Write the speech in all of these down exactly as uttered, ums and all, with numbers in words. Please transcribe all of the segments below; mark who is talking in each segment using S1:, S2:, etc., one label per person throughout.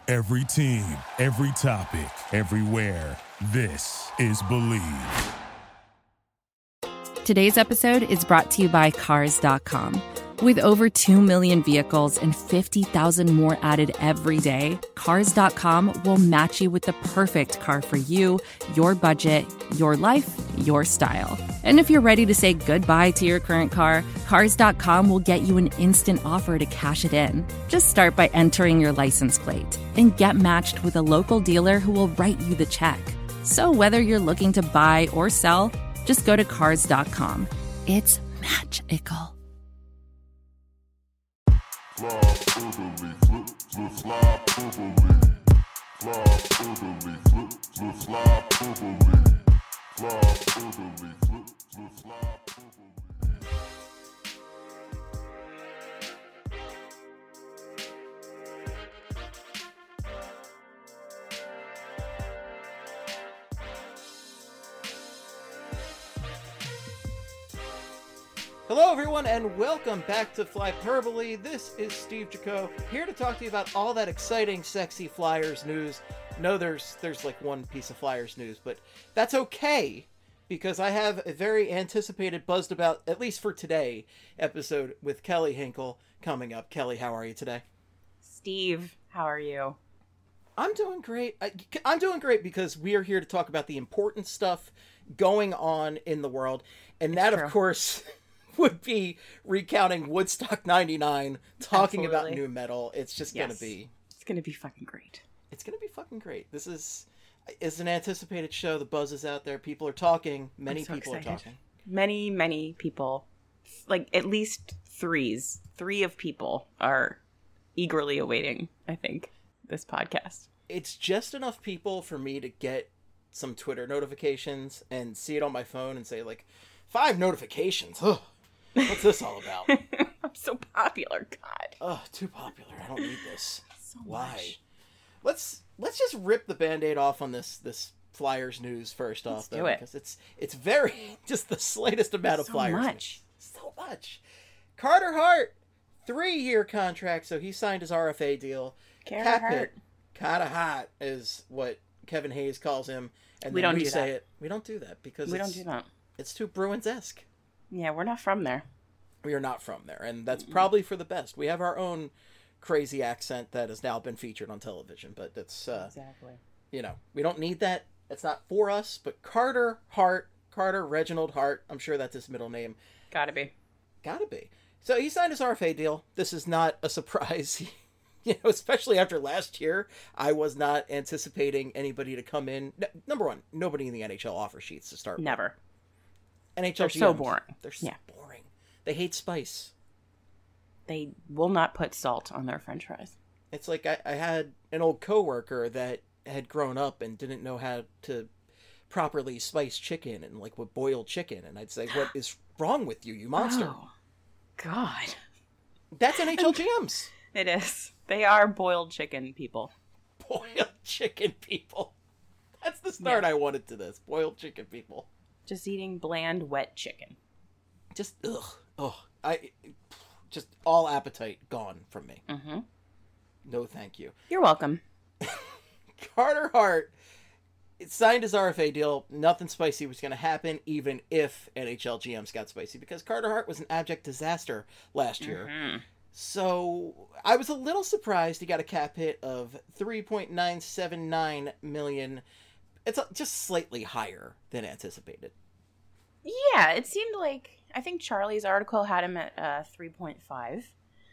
S1: Every team, every topic, everywhere. This is Believe.
S2: Today's episode is brought to you by Cars dot com. With over two million vehicles and fifty thousand more added every day, Cars dot com will match you with the perfect car for you, your budget, your life, your style. And if you're ready to say goodbye to your current car, Cars dot com will get you an instant offer to cash it in. Just start by entering your license plate and get matched with a local dealer who will write you the check. So whether you're looking to buy or sell, just go to Cars dot com. It's magical.
S3: Fly over me, flip, flip, fly over me. Fly over me, flip, flip, fly over me. Fly over me, flip, flip, fly over me.
S4: Hello everyone and welcome back to Flyperbole. This is Steve Jaco, here to talk to you about all that exciting, sexy Flyers news. No, there's there's like one piece of Flyers news, but that's okay, because I have a very anticipated, buzzed about, at least for today, episode with Kelly Hinkle coming up. Kelly, how are you today?
S5: Steve, how are you?
S4: I'm doing great. I, I'm doing great because we are here to talk about the important stuff going on in the world, and that, of course, would be recounting Woodstock ninety-nine, talking
S5: Absolutely.
S4: about new metal. It's just
S5: Yes.
S4: gonna be,
S5: It's gonna be fucking great.
S4: it's gonna be fucking great. This is, is an anticipated show. The buzz is out there. People are talking. Many
S5: I'm so
S4: people
S5: excited.
S4: are talking.
S5: Many, many people, like at least threes, three of people are eagerly awaiting, I think, this podcast.
S4: It's just enough people for me to get some Twitter notifications and see it on my phone and say like, five notifications. Ugh. What's this all about?
S5: I'm so popular, God.
S4: Oh, too popular. I don't need this.
S5: So
S4: Why?
S5: much.
S4: Let's let's just rip the Band-Aid off on this this Flyers news first
S5: Let's
S4: off, though,
S5: do it.
S4: because it's it's very just the slightest amount of
S5: So
S4: Flyers
S5: much.
S4: news. So much. Carter Hart, three-year contract, so he signed his R F A deal.
S5: Carter
S4: Cap
S5: Hart.
S4: hit, Carter Hart is what Kevin Hayes calls him, and
S5: We
S4: then
S5: don't
S4: we
S5: do
S4: say
S5: that.
S4: it. We don't do that because
S5: We
S4: it's,
S5: don't do that.
S4: it's too Bruins-esque.
S5: Yeah, we're not from there.
S4: We are not from there, and that's probably for the best. We have our own crazy accent that has now been featured on television, but it's, uh,
S5: Exactly.
S4: you know, we don't need that. It's not for us, but Carter Hart, Carter Reginald Hart, I'm sure that's his middle name.
S5: Gotta be.
S4: Gotta be. So he signed his R F A deal. This is not a surprise. You know, especially after last year, I was not anticipating anybody to come in. N- number one, nobody in the N H L offer sheets to start with.
S5: Never.
S4: N H L
S5: They're so
S4: G Ms,
S5: boring.
S4: They're so
S5: Yeah.
S4: boring. They hate spice.
S5: They will not put salt on their french fries.
S4: It's like I, I had an old coworker that had grown up and didn't know how to properly spice chicken and like would boil chicken, and I'd say, "What is wrong with you, you monster?"
S5: Oh, God.
S4: That's N H L G Ms.
S5: It is. They are boiled chicken people.
S4: Boiled chicken people. That's the start
S5: Yeah.
S4: I wanted to this. Boiled chicken people.
S5: Just eating bland, wet chicken.
S4: Just ugh, ugh. I just all appetite gone from me.
S5: Mm-hmm.
S4: No, thank you.
S5: You're welcome.
S4: Carter Hart signed his R F A deal. Nothing spicy was going to happen, even if N H L G Ms got spicy, because Carter Hart was an abject disaster last year.
S5: Mm-hmm.
S4: So I was a little surprised he got a cap hit of three point nine seven nine million. It's just slightly higher than anticipated.
S5: Yeah, it seemed like, I think Charlie's article had him at uh, three point five.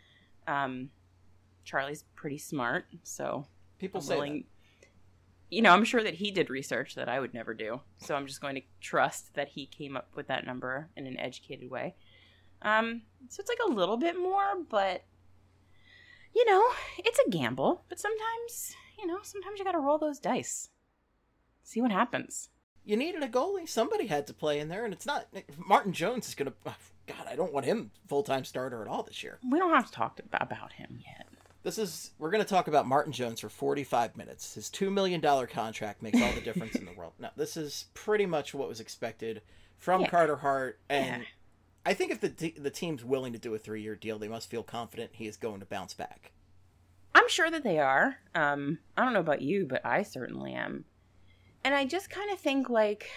S5: Um, Charlie's pretty smart, so
S4: People
S5: I'm
S4: say
S5: willing, you know, I'm sure that he did research that I would never do. So I'm just going to trust that he came up with that number in an educated way. Um, so it's like a little bit more, but, you know, it's a gamble. But sometimes, you know, sometimes you got to roll those dice. See what happens.
S4: you needed a goalie. Somebody had to play in there, and it's not Martin Jones is going to. God, I don't want him full-time starter at all this year.
S5: We don't have to talk about him yet.
S4: This is we're going to talk about Martin Jones for forty-five minutes. His two million dollars contract makes all the difference in the world. Now, this is pretty much what was expected from
S5: Yeah.
S4: Carter Hart, and
S5: Yeah.
S4: I think if the te- the team's willing to do a three-year deal, they must feel confident he is going to bounce back.
S5: I'm sure that they are. Um, I don't know about you, but I certainly am. And I just kind of think, like,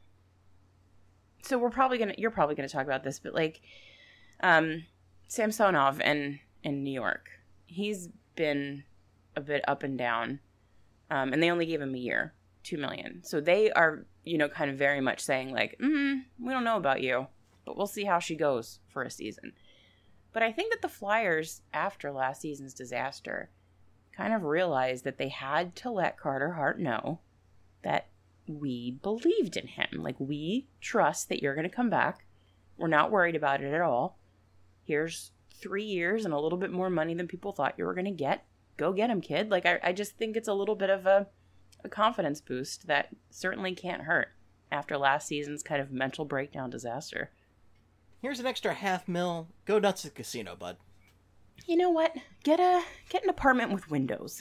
S5: so we're probably going to, you're probably going to talk about this, but, like, um, Samsonov in, in New York, he's been a bit up and down, um, and they only gave him a year, two million. So they are, you know, kind of very much saying, like, mm, we don't know about you, but we'll see how she goes for a season. But I think that the Flyers, after last season's disaster, kind of realized that they had to let Carter Hart know that we believed in him. Like, we trust that you're going to come back. We're not worried about it at all. Here's three years and a little bit more money than people thought you were going to get. Go get him, kid. Like, I, I just think it's a little bit of a, a confidence boost that certainly can't hurt after last season's kind of mental breakdown disaster.
S4: Here's an extra half mil. Go nuts at the casino, bud.
S5: You know what? Get a get an apartment with windows.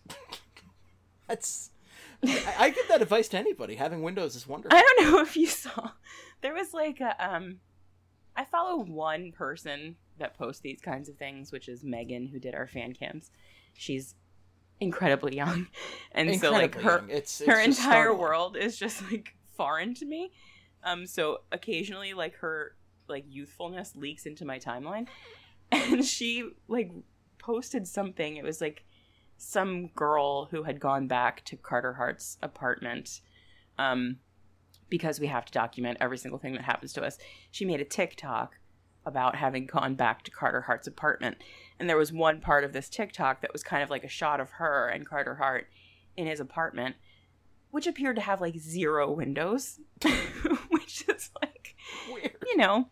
S4: That's... I, I give that advice to anybody. Having windows is wonderful.
S5: I don't know if you saw. There was like a, um, I follow one person that posts these kinds of things, which is Megan, who did our fan cams. She's incredibly young, and incredibly so like her it's, it's her entire startling. world is just like foreign to me. Um, so occasionally, like her like youthfulness leaks into my timeline, and she like posted something. It was like some girl who had gone back to Carter Hart's apartment um, because we have to document every single thing that happens to us. She made a TikTok about having gone back to Carter Hart's apartment. And there was one part of this TikTok that was kind of like a shot of her and Carter Hart in his apartment, which appeared to have like zero windows, which is like, weird. You know,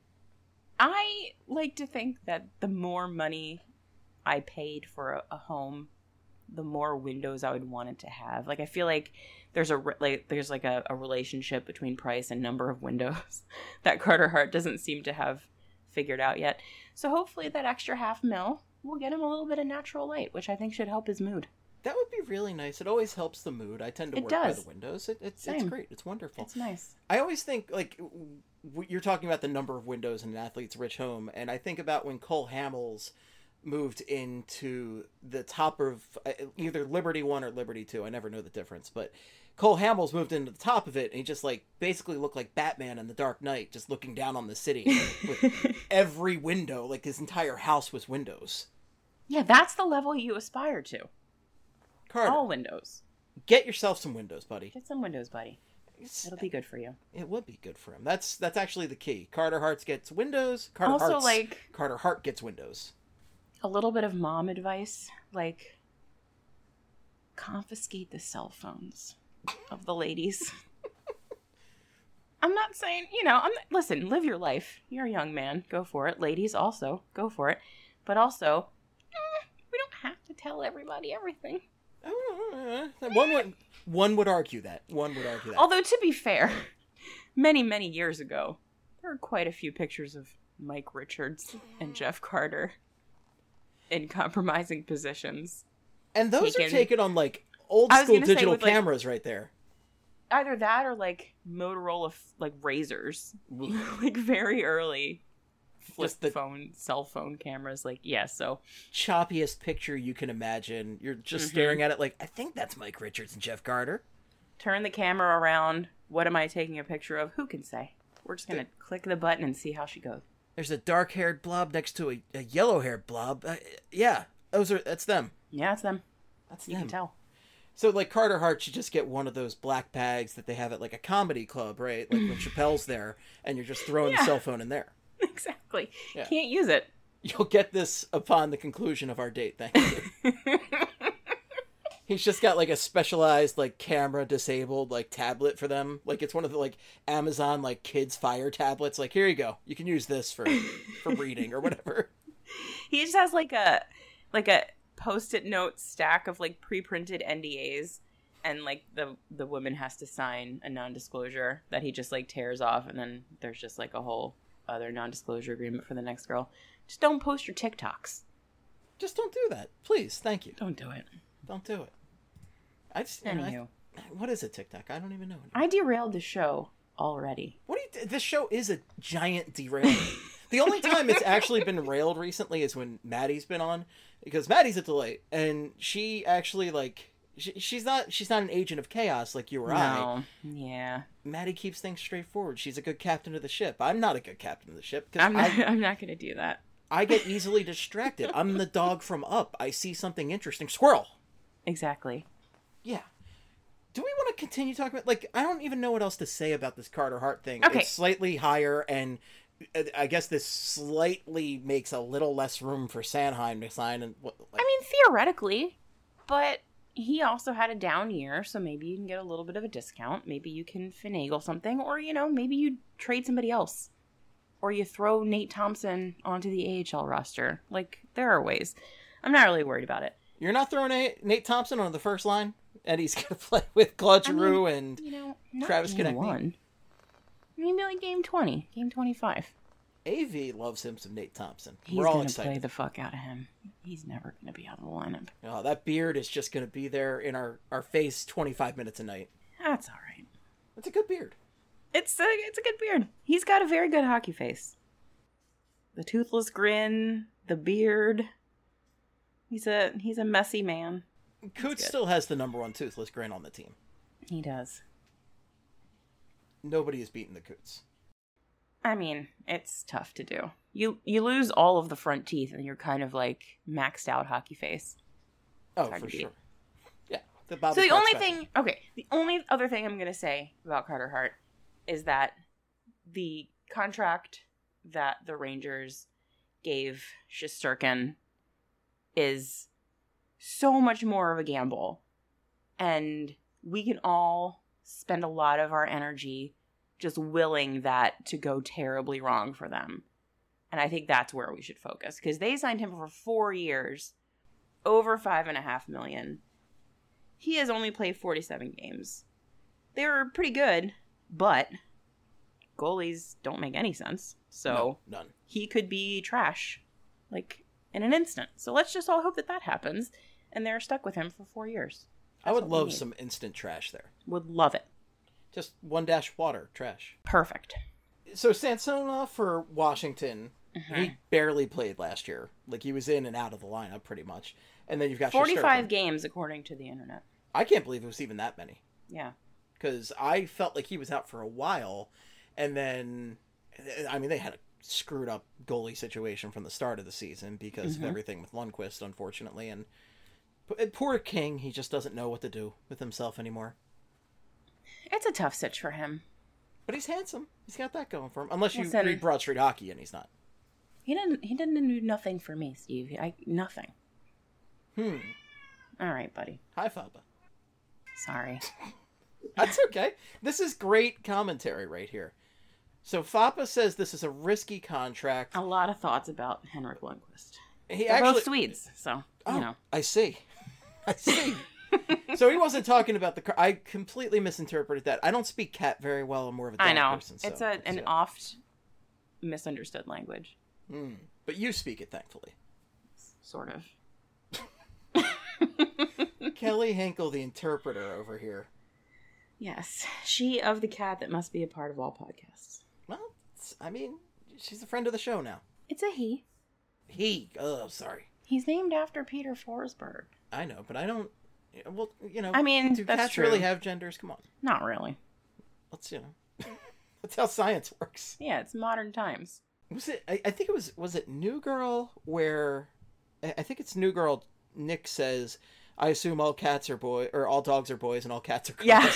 S5: I like to think that the more money I paid for a, a home, the more windows I would want it to have. Like, I feel like there's a like there's like a, a relationship between price and number of windows that Carter Hart doesn't seem to have figured out yet. So hopefully that extra half mil will get him a little bit of natural light, which I think should help his mood.
S4: That would be really nice. It always helps the mood. I tend to
S5: it
S4: work
S5: does.
S4: by the windows. It, it's it's great. It's wonderful.
S5: It's nice.
S4: I always think, like, w- you're talking about the number of windows in an athlete's rich home, and I think about when Cole Hamels moved into the top of uh, either Liberty One or Liberty Two. I never know the difference, but Cole Hamels moved into the top of it, and he just like basically looked like Batman in the Dark Knight, just looking down on the city with every window. Like, his entire house was windows.
S5: Yeah, that's the level you aspire to.
S4: Carter,
S5: all windows.
S4: Get yourself some windows, buddy.
S5: Get some windows, buddy. It's, It'll be good for you.
S4: It would be good for him. That's that's actually the key. Carter Hart gets windows. Carter
S5: also,
S4: Hart's,
S5: like
S4: Carter Hart gets windows.
S5: A little bit of mom advice, like confiscate the cell phones of the ladies. I'm not saying, you know, I'm not, listen, live your life. You're a young man. Go for it. Ladies also, go for it. But also, eh, we don't have to tell everybody everything.
S4: One would, one would argue that. One would argue that.
S5: Although, to be fair, many, many years ago, there were quite a few pictures of Mike Richards and Jeff Carter in compromising positions.
S4: And those taken, are taken on, like, old school digital with, cameras like, right there.
S5: Either that or, like, Motorola, like, razors. Like, very early flip Just the phone, cell phone cameras. Like, yeah, so.
S4: Choppiest picture you can imagine. You're just mm-hmm. staring at it like, I think that's Mike Richards and Jeff Carter.
S5: Turn the camera around. What am I taking a picture of? Who can say? We're just going to click the button and see how she goes.
S4: There's a dark-haired blob next to a, a yellow-haired blob. Uh, yeah, those are that's them.
S5: Yeah, it's them.
S4: That's
S5: you
S4: them.
S5: can tell.
S4: So, like, Carter Hart should just get one of those black bags that they have at, like, a comedy club, right? Like, when Chappelle's there, and you're just throwing yeah. the cell phone in there.
S5: Exactly. Yeah. Can't use it.
S4: You'll get this upon the conclusion of our date, thank you. He's just got, like, a specialized, like, camera-disabled, like, tablet for them. Like, it's one of the, like, Amazon, like, kids' Fire tablets. Like, here you go. You can use this for, for reading or whatever.
S5: He just has, like, a, like, a Post-it note stack of, like, pre-printed N D As. And, like, the, the woman has to sign a non-disclosure that he just, like, tears off. And then there's just, like, a whole other non-disclosure agreement for the next girl. Just don't post your TikToks.
S4: Just don't do that. Please. Thank you.
S5: Don't do it.
S4: Don't do it. I just, you
S5: Anywho.
S4: know, I, what is a TikTok? I don't even know.
S5: I derailed the show already.
S4: What do you? This show is a giant derailment. The only time it's actually been railed recently is when Maddie's been on, because Maddie's a delight, and she actually, like, she, she's not she's not an agent of chaos like you or
S5: No.
S4: I.
S5: Yeah.
S4: Maddie keeps things straightforward. She's a good captain of the ship. I'm not a good captain of the ship, because
S5: I'm not,
S4: I,
S5: I'm not going to do that.
S4: I get easily distracted. I'm the dog from Up. I see something interesting. Squirrel!
S5: Exactly.
S4: Yeah. Do we want to continue talking about, like, I don't even know what else to say about this Carter Hart thing.
S5: Okay.
S4: It's slightly higher, and I guess this slightly makes a little less room for Sanheim to sign. And what, like,
S5: I mean, theoretically, but he also had a down year, so maybe you can get a little bit of a discount. Maybe you can finagle something, or, you know, maybe you trade somebody else. Or you throw Nate Thompson onto the A H L roster. Like, there are ways. I'm not really worried about it.
S4: you're not throwing a, Nate Thompson on the first line? And he's going to play with Claude Giroux
S5: I mean,
S4: and
S5: you know, not
S4: Travis
S5: game
S4: Konecny.
S5: one. Maybe like game twenty, game twenty-five.
S4: A V loves him some Nate Thompson.
S5: He's
S4: We're all
S5: gonna
S4: excited.
S5: play the fuck out of him. He's never gonna be out of the lineup.
S4: Oh, that beard is just going to be there in our, our face twenty-five minutes a night.
S5: That's all right.
S4: It's a good beard.
S5: It's a it's a good beard. He's got a very good hockey face. The toothless grin, the beard. He's a he's a messy man.
S4: Coots
S5: good.
S4: still has the number one toothless grin on the team.
S5: He does.
S4: Nobody has beaten the Coots.
S5: I mean, it's tough to do. You you lose all of the front teeth, and you're kind of like maxed out hockey face.
S4: Oh,
S5: hard
S4: for
S5: to beat.
S4: sure. Yeah. The Bobby
S5: So the
S4: Clark
S5: only
S4: special.
S5: thing, okay, the only other thing I'm going to say about Carter Hart is that the contract that the Rangers gave Shesterkin is so much more of a gamble. And we can all spend a lot of our energy just willing that to go terribly wrong for them. And I think that's where we should focus, because they signed him for four years, over five and a half million. He has only played forty-seven games. They were pretty good, but goalies don't make any sense. So
S4: No, none.
S5: he could be trash, like, in an instant. So let's just all hope that that happens, and they're stuck with him for four years.
S4: I
S5: That's
S4: would
S5: what we
S4: love
S5: need.
S4: some instant trash there.
S5: Would love it.
S4: Just one dash water, trash.
S5: Perfect.
S4: So Sansona for Washington,
S5: Mm-hmm.
S4: he barely played last year. Like, he was in and out of the lineup pretty much. And then you've got
S5: forty-five
S4: Shesterkin.
S5: games, according to the internet.
S4: I can't believe it was even that many.
S5: Yeah.
S4: Because I felt like he was out for a while. And then, I mean, they had a screwed up goalie situation from the start of the season because
S5: Mm-hmm.
S4: of everything with Lundqvist, unfortunately. And poor King, he just doesn't know what to do with himself anymore.
S5: It's a tough sitch for him.
S4: But he's handsome. He's got that going for him. Unless you
S5: Listen.
S4: read Broad Street Hockey, and he's not.
S5: He didn't. He didn't do nothing for me, Steve. I nothing.
S4: Hmm.
S5: All right, buddy.
S4: Hi, Faba.
S5: Sorry.
S4: That's okay. This is great commentary right here. So Fapa says this is a risky contract.
S5: A lot of thoughts about Henrik Lundqvist.
S4: He
S5: They're
S4: actually,
S5: both Swedes, so
S4: oh,
S5: you know.
S4: I see. I see. So he wasn't talking about the. car- I completely misinterpreted that. I don't speak cat very well. I'm more of a dog
S5: I know
S4: person. So,
S5: it's a an
S4: so-
S5: oft misunderstood language,
S4: Hmm. But you speak it, thankfully.
S5: sort of.
S4: Kelly Hinkle, the interpreter over here.
S5: Yes, she of the cat that must be a part of all podcasts.
S4: Well, it's- I mean, she's a friend of the show now.
S5: It's a he.
S4: He. Oh, sorry.
S5: He's named after Peter Forsberg.
S4: I know, but I don't. Well, you know.
S5: I mean,
S4: do
S5: that's
S4: cats
S5: true.
S4: really have genders? Come on.
S5: Not really.
S4: Let's you know. That's how science works.
S5: Yeah, it's modern times.
S4: Was it? I, I think it was. Was it New Girl where? I I think it's New Girl. Nick says, "I assume all cats are boy or all dogs are boys and all cats are girls."
S5: Yeah.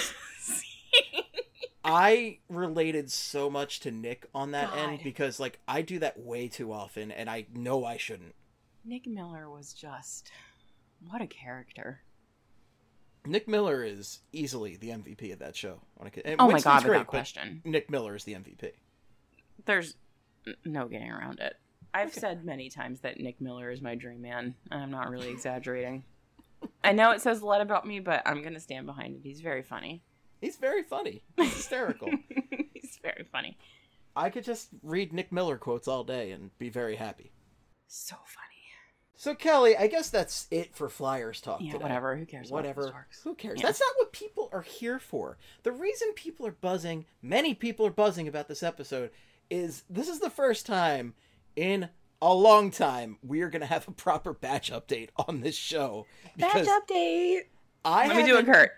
S4: I related so much to Nick on that end
S5: God.
S4: because like I do that way too often, and I know I shouldn't.
S5: Nick Miller was just what a character.
S4: Nick Miller is easily the M V P of that show. When it, and
S5: Oh my
S4: Winston's
S5: God,
S4: great,
S5: without
S4: but
S5: question.
S4: Nick Miller is the M V P.
S5: There's n- no getting around it. I've
S4: Okay.
S5: said many times that Nick Miller is my dream man, and I'm not really exaggerating. I know it says a lot about me, but I'm going to stand behind it. He's very funny.
S4: He's very funny. He's hysterical.
S5: He's very funny.
S4: I could just read Nick Miller quotes all day and be very happy.
S5: So funny.
S4: So Kelly, I guess that's it for Flyers talk
S5: Yeah,
S4: today.
S5: whatever. Who cares? about
S4: Whatever.
S5: those Sharks?
S4: Who cares?
S5: Yeah.
S4: That's not what people are here for. The reason people are buzzing, many people are buzzing about this episode, is this is the first time in a long time we are going to have a proper batch update on this show.
S5: Batch update!
S4: I
S5: Let me do a Kurt.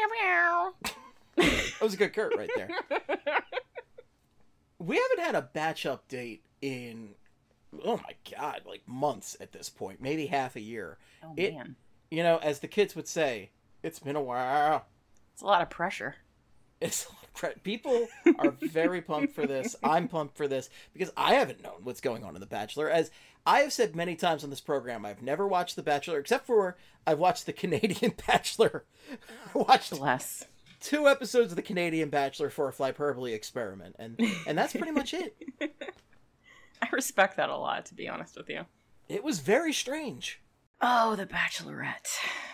S4: That was a good Kurt right there. We haven't had a batch update in, oh my god, like months at this point. Maybe half a year.
S5: Oh,
S4: it,
S5: man.
S4: You know, as the kids would say, it's been a while.
S5: It's a lot of pressure.
S4: It's a lot of pre- People are very pumped for this. I'm pumped for this because I haven't known what's going on in The Bachelor. As I have said many times on this program, I've never watched The Bachelor, except for I've watched the Canadian Bachelor. I watched
S5: Bless.
S4: two episodes of the Canadian Bachelor for a Flyperbole experiment, and and that's pretty much it.
S5: I respect that a lot, to be honest with you.
S4: It was very strange.
S5: Oh, The Bachelorette.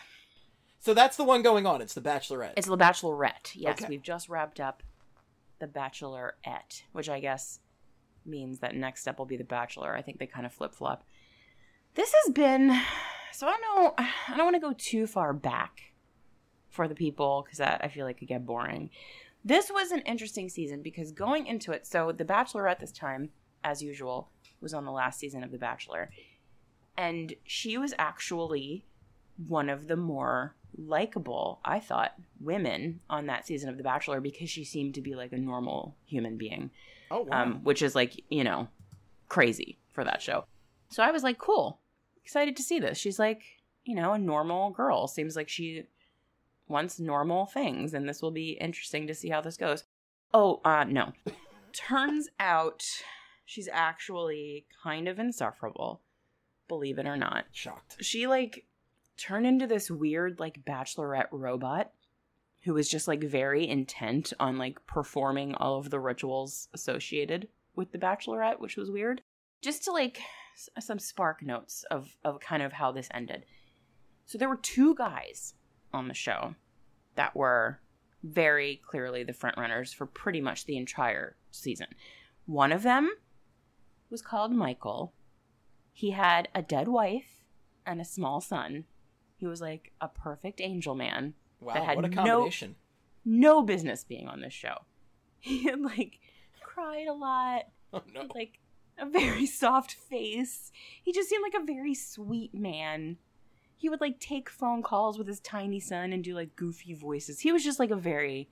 S4: So that's the one going on. It's The Bachelorette.
S5: It's The Bachelorette. Yes,
S4: Okay.
S5: We've just wrapped up The Bachelorette, which I guess means that next step will be The Bachelor. I think they kind of flip-flop. This has been... So I don't know... I don't want to go too far back for the people, because that I feel like could get boring. This was an interesting season, because going into it... So The Bachelorette this time, as usual, was on the last season of The Bachelor. And she was actually one of the more likable, I thought, women on that season of The Bachelor, because she seemed to be like a normal human being.
S4: Oh, wow.
S5: Um, which is like, you know, crazy for that show. So I was like, cool, excited to see this. She's like, you know, a normal girl. Seems like she wants normal things, and this will be interesting to see how this goes. Oh, uh, no. Turns out she's actually kind of insufferable, believe it or not.
S4: Shocked.
S5: She, like, turned into this weird, like, bachelorette robot who was just, like, very intent on, like, performing all of the rituals associated with the Bachelorette, which was weird. Just to, like, s- some spark notes of, of kind of how this ended. So there were two guys on the show that were very clearly the frontrunners for pretty much the entire season. One of them was called Michael. He had a dead wife and a small son. He was like a perfect angel man.
S4: Wow,
S5: that had
S4: what a combination.
S5: No, no business being on this show. He had like cried a lot.
S4: Oh, no.
S5: Had, like a very soft face. He just seemed like a very sweet man. He would like take phone calls with his tiny son and do like goofy voices. He was just like a very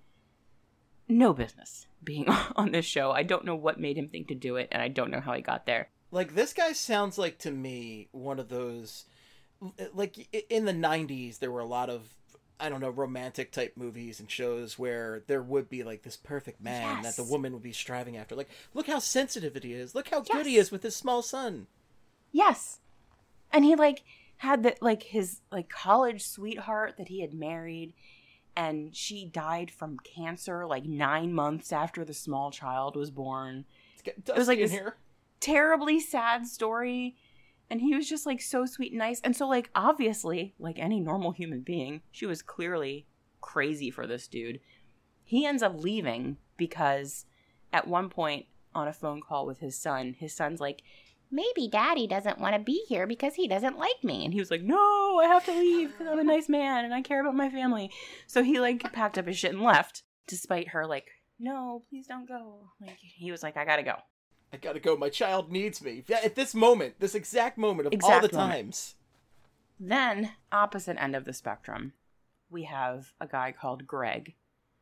S5: no business being on this show. I don't know what made him think to do it, and I don't know how he got there.
S4: Like, this guy sounds like, to me, one of those... Like, i- in the nineties, there were a lot of, I don't know, romantic type movies and shows where there would be, like, this perfect man
S5: Yes.
S4: that the woman would be striving after. Like, look how sensitive it is. Look how good
S5: Yes.
S4: he is with his small son.
S5: Yes. And he like had the like his like college sweetheart that he had married, and she died from cancer like nine months after the small child was born.
S4: It's getting
S5: It was like
S4: dusty in
S5: this
S4: here.
S5: terribly sad story. And he was just like so sweet and nice. And so like obviously, like any normal human being, she was clearly crazy for this dude. He ends up leaving because at one point on a phone call with his son, his son's like, maybe daddy doesn't want to be here because he doesn't like me. And he was like, no, I have to leave because I'm a nice man and I care about my family. So he like packed up his shit and left, despite her like, no, please don't go. Like he was like, I gotta go.
S4: I gotta go. My child needs me. Yeah, at this moment, this exact moment of
S5: Exact
S4: all the
S5: moment.
S4: times.
S5: Then, opposite end of the spectrum, we have a guy called Greg,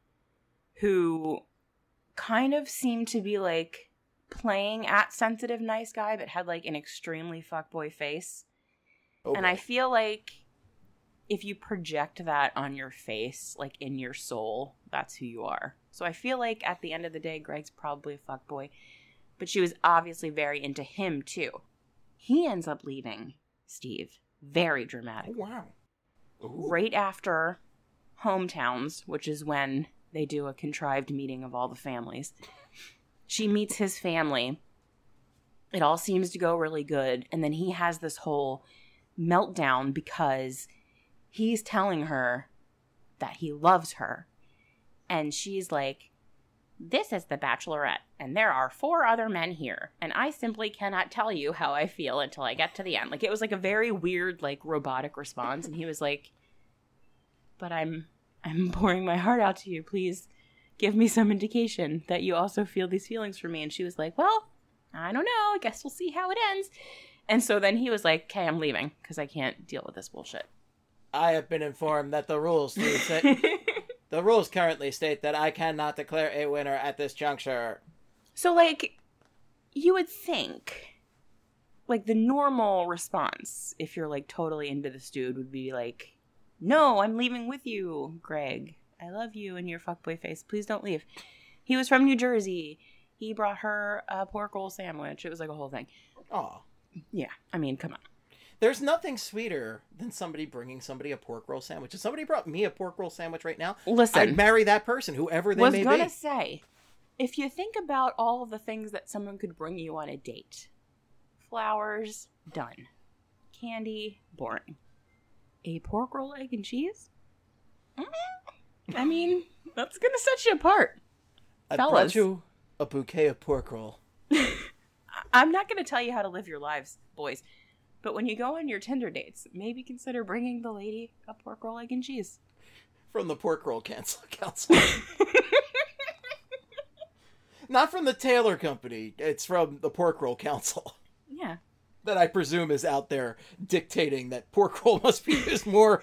S5: who kind of seemed to be like playing at sensitive nice guy, but had like an extremely fuckboy face.
S4: Oh,
S5: And
S4: boy.
S5: I feel like if you project that on your face, like in your soul, that's who you are. So I feel like at the end of the day, Greg's probably a fuckboy. But she was obviously very into him, too. He ends up leaving Steve. Very dramatic.
S4: Oh, wow. Ooh.
S5: Right after Hometowns, which is when they do a contrived meeting of all the families. She meets his family. It all seems to go really good. And then he has this whole meltdown because he's telling her that he loves her. And she's like, this is the Bachelorette, and there are four other men here, and I simply cannot tell you how I feel until I get to the end. Like, it was like a very weird, like, robotic response, and he was like, but I'm, I'm pouring my heart out to you, please give me some indication that you also feel these feelings for me. And she was like, well, I don't know. I guess we'll see how it ends. And so then he was like, okay, I'm leaving because I can't deal with this bullshit.
S4: I have been informed that the rules state the rules currently state that I cannot declare a winner at this juncture.
S5: So, like, you would think, like, the normal response, if you're, like, totally into this dude, would be like, no, I'm leaving with you, Greg. I love you and your fuckboy face. Please don't leave. He was from New Jersey. He brought her a pork roll sandwich. It was like a whole thing.
S4: Aw.
S5: Yeah, I mean, come on.
S4: There's nothing sweeter than somebody bringing somebody a pork roll sandwich. If somebody brought me a pork roll sandwich right now,
S5: listen,
S4: I'd marry that person, whoever they
S5: was
S4: may
S5: gonna
S4: be.
S5: say, if you think about all of the things that someone could bring you on a date, flowers, done. Candy, boring. A pork roll, egg, and cheese? Mm-hmm. I mean, that's gonna set you apart.
S4: I
S5: Fellas.
S4: brought you a bouquet of pork roll.
S5: I'm not gonna tell you how to live your lives, boys. But when you go on your Tinder dates, maybe consider bringing the lady a pork roll, egg, and cheese.
S4: From the Pork Roll Cancel Council. Not from the Taylor Company. It's from the Pork Roll Council.
S5: Yeah.
S4: That I presume is out there dictating that pork roll must be used more.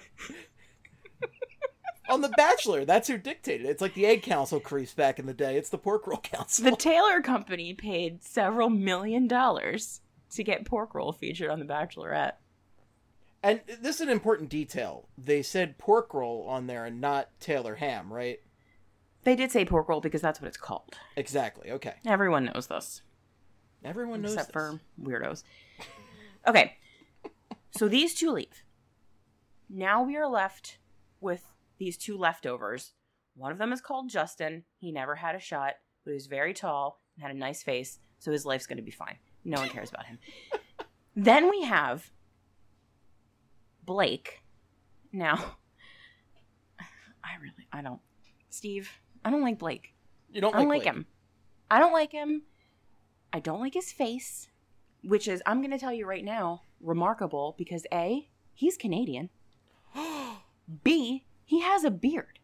S4: On The Bachelor, that's who dictated it. It's like the Egg Council creeps back in the day. It's the Pork Roll Council.
S5: The Taylor Company paid several million dollars to get pork roll featured on The Bachelorette.
S4: And this is an important detail. They said pork roll on there and not Taylor ham, right?
S5: They did say pork roll because that's what it's called.
S4: Exactly, okay.
S5: Everyone knows this.
S4: Everyone knows
S5: Except
S4: this.
S5: for weirdos. Okay. So these two leave. Now we are left with these two leftovers. One of them is called Justin. He never had a shot, but he was very tall and had a nice face, so his life's going to be fine. No one cares about him. Then we have Blake. Now, I really, I don't, Steve, I don't like Blake.
S4: You don't
S5: I don't
S4: like,
S5: like
S4: Blake.
S5: him. I don't like him. I don't like his face, which is, I'm going to tell you right now, remarkable because A, he's Canadian. B, he has a beard.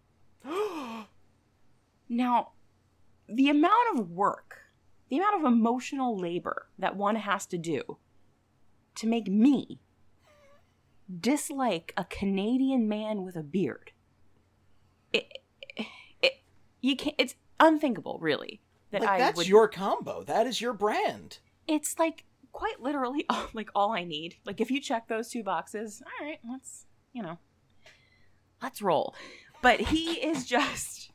S5: Now, the amount of work, the amount of emotional labor that one has to do to make me dislike a Canadian man with a beard, it, it, it you can't. It's unthinkable, really. That
S4: Like,
S5: I
S4: that's
S5: would,
S4: your combo. That is your brand.
S5: It's like quite literally all, like all I need. Like if you check those two boxes, all right, let's you know, let's roll. But he is just.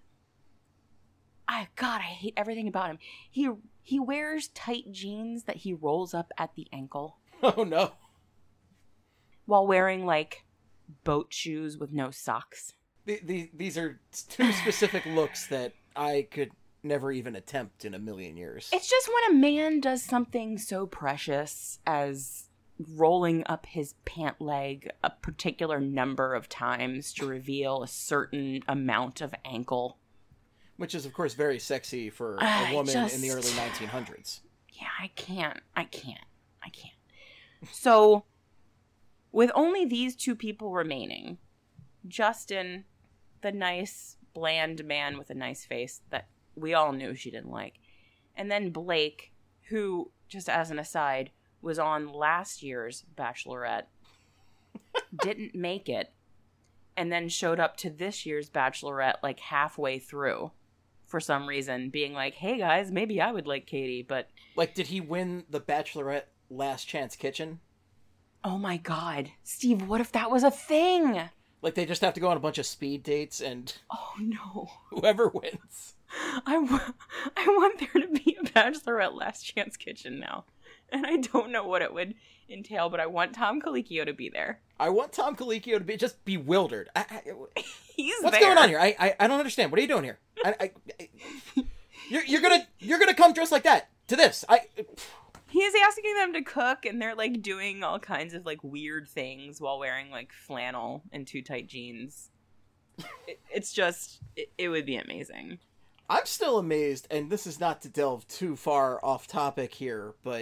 S5: I God, I hate everything about him. He he wears tight jeans that he rolls up at the ankle
S4: Oh, no.
S5: while wearing like boat shoes with no socks.
S4: The, the, these are two specific looks that I could never even attempt in a million years.
S5: It's just when a man does something so precious as rolling up his pant leg a particular number of times to reveal a certain amount of ankle.
S4: Which is, of course, very sexy for a
S5: I
S4: woman
S5: just-
S4: in the early nineteen hundreds.
S5: Yeah, I can't. I can't. I can't. So, with only these two people remaining, Justin, the nice, bland man with a nice face that we all knew she didn't like, and then Blake, who, just as an aside, was on last year's Bachelorette, didn't make it, and then showed up to this year's Bachelorette like halfway through. For some reason, being like, hey guys, maybe I would like Katie, but...
S4: Like, did he win the Bachelorette Last Chance Kitchen?
S5: Oh my god. Steve, what if that was a thing?
S4: Like, they just have to go on a bunch of speed dates, and
S5: Oh no.
S4: whoever wins.
S5: I, w- I want there to be a Bachelorette Last Chance Kitchen now. And I don't know what it would entail, but I want Tom Colicchio to be there.
S4: I want Tom Colicchio to be just bewildered. I, I,
S5: He's
S4: what's
S5: there.
S4: going on here? I, I I don't understand. What are you doing here? I, I, I you're you're gonna you're gonna come dressed like that to this? I.
S5: He's asking them to cook, and they're like doing all kinds of like weird things while wearing like flannel and too tight jeans. it, it's just, it, it would be amazing.
S4: I'm still amazed, and this is not to delve too far off topic here, but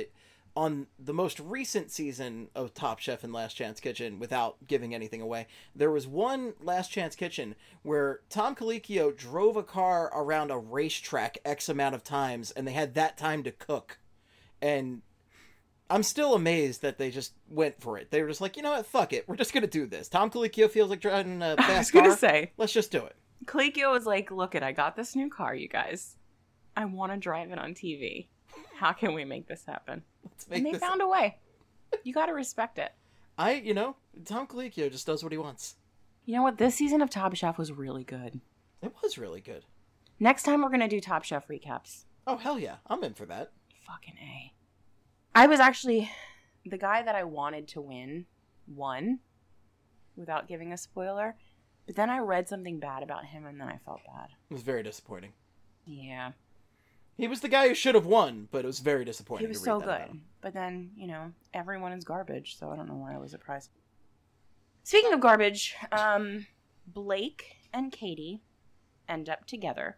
S4: on the most recent season of Top Chef and Last Chance Kitchen, without giving anything away, there was one Last Chance Kitchen where Tom Colicchio drove a car around a racetrack X amount of times, and they had that time to cook. And I'm still amazed that they just went for it. They were just like, you know what, fuck it, we're just gonna do this. Tom Colicchio feels like driving a fast car.
S5: I was gonna say,
S4: let's just do it.
S5: Colicchio was like, look it, I got this new car, you guys. I want to drive it on T V. How can we make this happen?
S4: Let's make
S5: and they
S4: this
S5: found a way. You got to respect it.
S4: I, you know, Tom Colicchio just does what he wants.
S5: You know what? This season of Top Chef was really good.
S4: It was really good.
S5: Next time we're going to do Top Chef recaps.
S4: Oh, hell yeah. I'm in for that.
S5: Fucking A. I was actually... The guy that I wanted to win won, without giving a spoiler. But then I read something bad about him, and then I felt bad.
S4: It was very disappointing.
S5: Yeah.
S4: He was the guy who should have won, but it was very disappointing.
S5: He was
S4: to read
S5: so
S4: that
S5: good. But then, you know, everyone is garbage, so I don't know why I was surprised. Speaking of garbage, um, Blake and Katie end up together.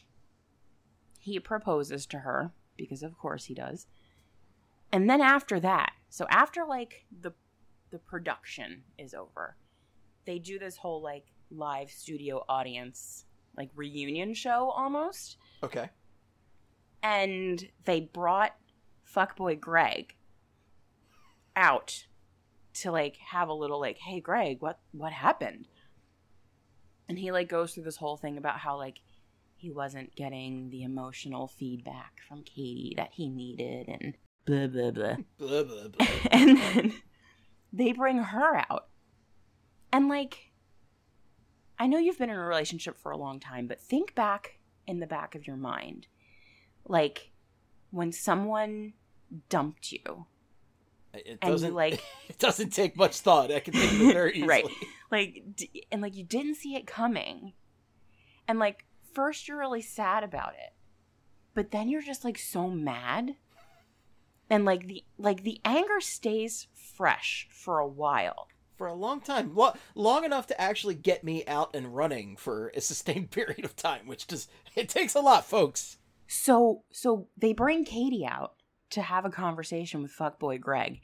S5: He proposes to her, because of course he does. And then after that, so after, like, the the production is over, they do this whole, like, live studio audience, like, reunion show almost.
S4: Okay.
S5: And they brought fuckboy Greg out to, like, have a little, like, hey, Greg, what, what happened? And he, like, goes through this whole thing about how, like, he wasn't getting the emotional feedback from Katie that he needed and blah, blah, blah.
S4: Blah, blah, blah.
S5: And then they bring her out. And, like, I know you've been in a relationship for a long time, but think back in the back of your mind. Like, when someone dumped you.
S4: It
S5: and
S4: doesn't,
S5: you, like...
S4: it doesn't take much thought. I can think of it very easily.
S5: Right. Like, d- and, like, you didn't see it coming. And, like, first you're really sad about it. But then you're just, like, so mad. And, like, the like the anger stays fresh for a while.
S4: For a long time. Lo- long enough to actually get me out and running for a sustained period of time, which just, it takes a lot, folks.
S5: So, so they bring Katie out to have a conversation with fuckboy Greg.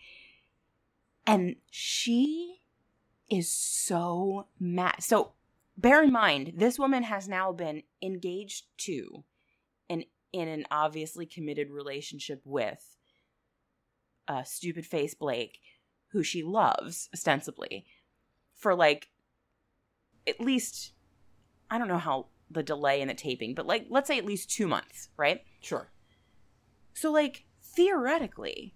S5: And she is so mad. So, bear in mind, this woman has now been engaged to and in an obviously committed relationship with uh, stupid face Blake, who she loves, ostensibly, for, like, at least, I don't know how the delay in the taping, but, like, let's say at least two months, right?
S4: Sure.
S5: So, like, theoretically,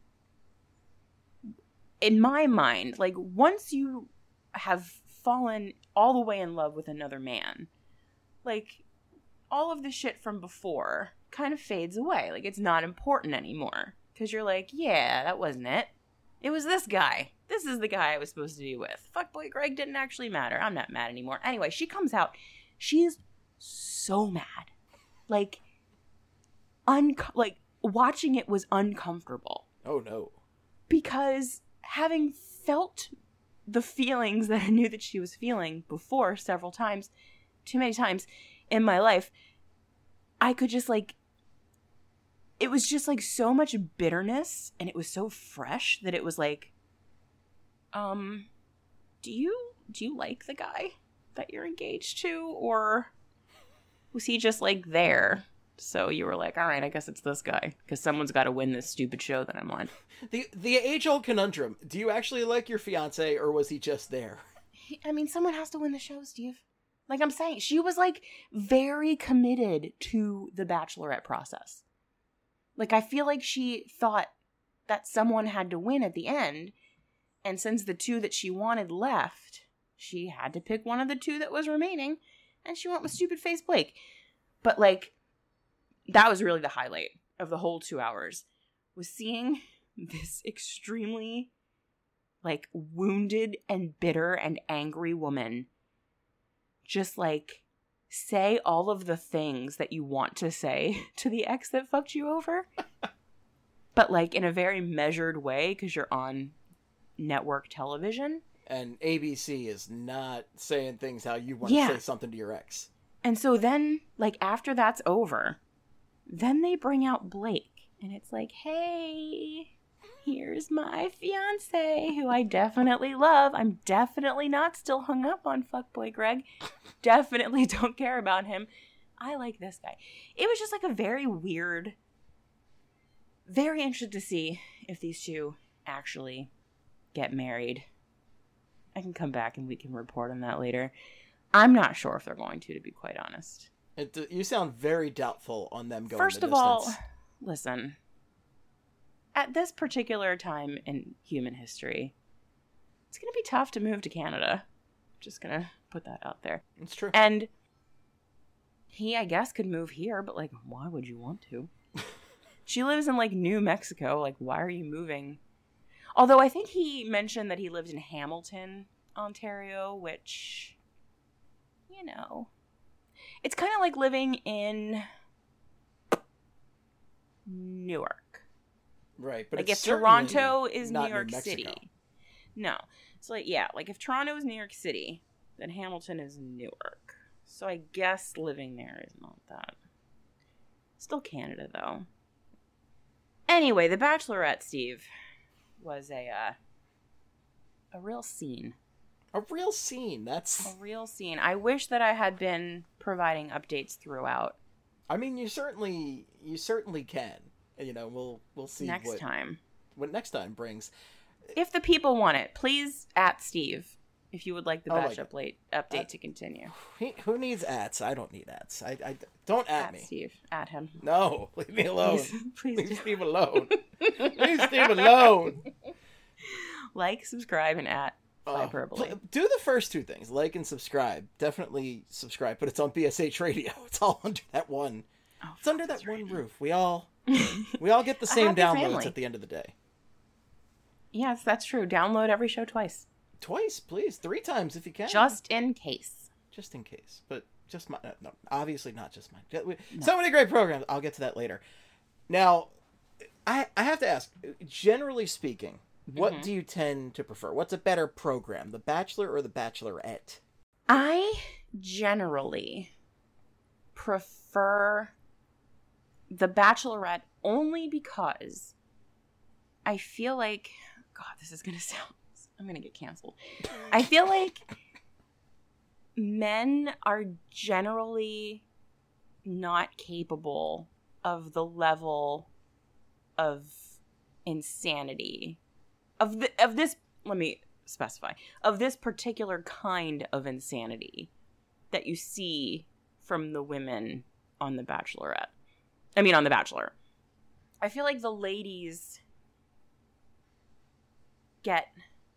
S5: in my mind, like, once you have fallen all the way in love with another man, like, all of the shit from before kind of fades away. Like, it's not important anymore. Because you're like, yeah, that wasn't it. It was this guy. This is the guy I was supposed to be with. Fuckboy Greg didn't actually matter. I'm not mad anymore. Anyway, she comes out. She's so mad. Like, un- like watching it was uncomfortable.
S4: Oh, no.
S5: Because having felt the feelings that I knew that she was feeling before several times, too many times in my life, I could just, like, it was just, like, so much bitterness, and it was so fresh that it was like, um, do you, do you like the guy that you're engaged to, or was he just, like, there? So you were like, all right, I guess it's this guy, because someone's got to win this stupid show that I'm on.
S4: The the age-old conundrum, do you actually like your fiancé, or was he just there?
S5: I mean, someone has to win the show, Steve. Like I'm saying, she was, like, very committed to the Bachelorette process. Like, I feel like she thought that someone had to win at the end, and since the two that she wanted left, she had to pick one of the two that was remaining, and she went with stupid face Blake. But, like, that was really the highlight of the whole two hours, was seeing this extremely, like, wounded and bitter and angry woman just, like, say all of the things that you want to say to the ex that fucked you over. But, like, in a very measured way, because you're on network television.
S4: And A B C is not saying things how you want
S5: Yeah.
S4: to say something to your ex.
S5: And so then, like, after that's over, then they bring out Blake. And it's like, hey, here's my fiance, who I definitely love. I'm definitely not still hung up on fuckboy Greg. Definitely don't care about him. I like this guy. It was just like a very weird, very interested to see if these two actually get married. I can come back and we can report on that later. I'm not sure if they're going to, to be quite honest.
S4: It, you sound very doubtful on them going
S5: First
S4: the
S5: of
S4: distance.
S5: all, listen. At this particular time in human history, it's going to be tough to move to Canada. Just going to put that out there.
S4: It's true.
S5: And he, I guess, could move here, but, like, why would you want to? She lives in, like, New Mexico. Like, why are you moving? Although I think he mentioned that he lived in Hamilton, Ontario, which, you know, it's kind of like living in Newark.
S4: Right, but
S5: like
S4: it's
S5: if Toronto
S4: certainly
S5: is
S4: not
S5: New York
S4: Mexico.
S5: City. No. So, like, yeah, like if Toronto is New York City, then Hamilton is Newark. So I guess living there is not that. Still Canada, though. Anyway, The Bachelorette, Steve, was a uh, a real scene.
S4: A real scene. That's.
S5: A real scene. I wish that I had been providing updates throughout.
S4: I mean, you certainly, you certainly can. You know, we'll we'll see
S5: Next
S4: what,
S5: time.
S4: what next time brings.
S5: If the people want it, please at Steve. If you would like the
S4: Oh my
S5: Batch
S4: God.
S5: update update
S4: Uh,
S5: to continue.
S4: Who, who needs ads? I don't need ads. I, I don't at,
S5: At
S4: me.
S5: Steve. At him.
S4: No, leave me alone.
S5: Please, please
S4: Leave
S5: do.
S4: Steve alone. Leave Steve alone.
S5: Like, subscribe, and at
S4: Oh,
S5: Hyperbole.
S4: pl- do the first two things, like and subscribe. Definitely subscribe, but it's on B S H Radio. It's all under that one.
S5: Oh,
S4: It's under that one roof. We all we all get the same
S5: happy
S4: downloads
S5: family.
S4: at the end of the day.
S5: Yes, that's true. Download every show twice.
S4: Twice, please, three times if you can.
S5: Just in case.
S4: just in case, but just my no, no obviously not just mine. Ju- we- So many great programs. I'll get to that later. Now, I I have to ask. Generally speaking, what
S5: Mm-hmm.
S4: do you tend to prefer? What's a better program, The Bachelor or The Bachelorette?
S5: I generally prefer The Bachelorette only because I feel like, God, this is going to sound, I'm going to get canceled. I feel like men are generally not capable of the level of insanity of the, of this, let me specify, of this particular kind of insanity that you see from the women on The Bachelorette. I mean, on The Bachelor. I feel like the ladies get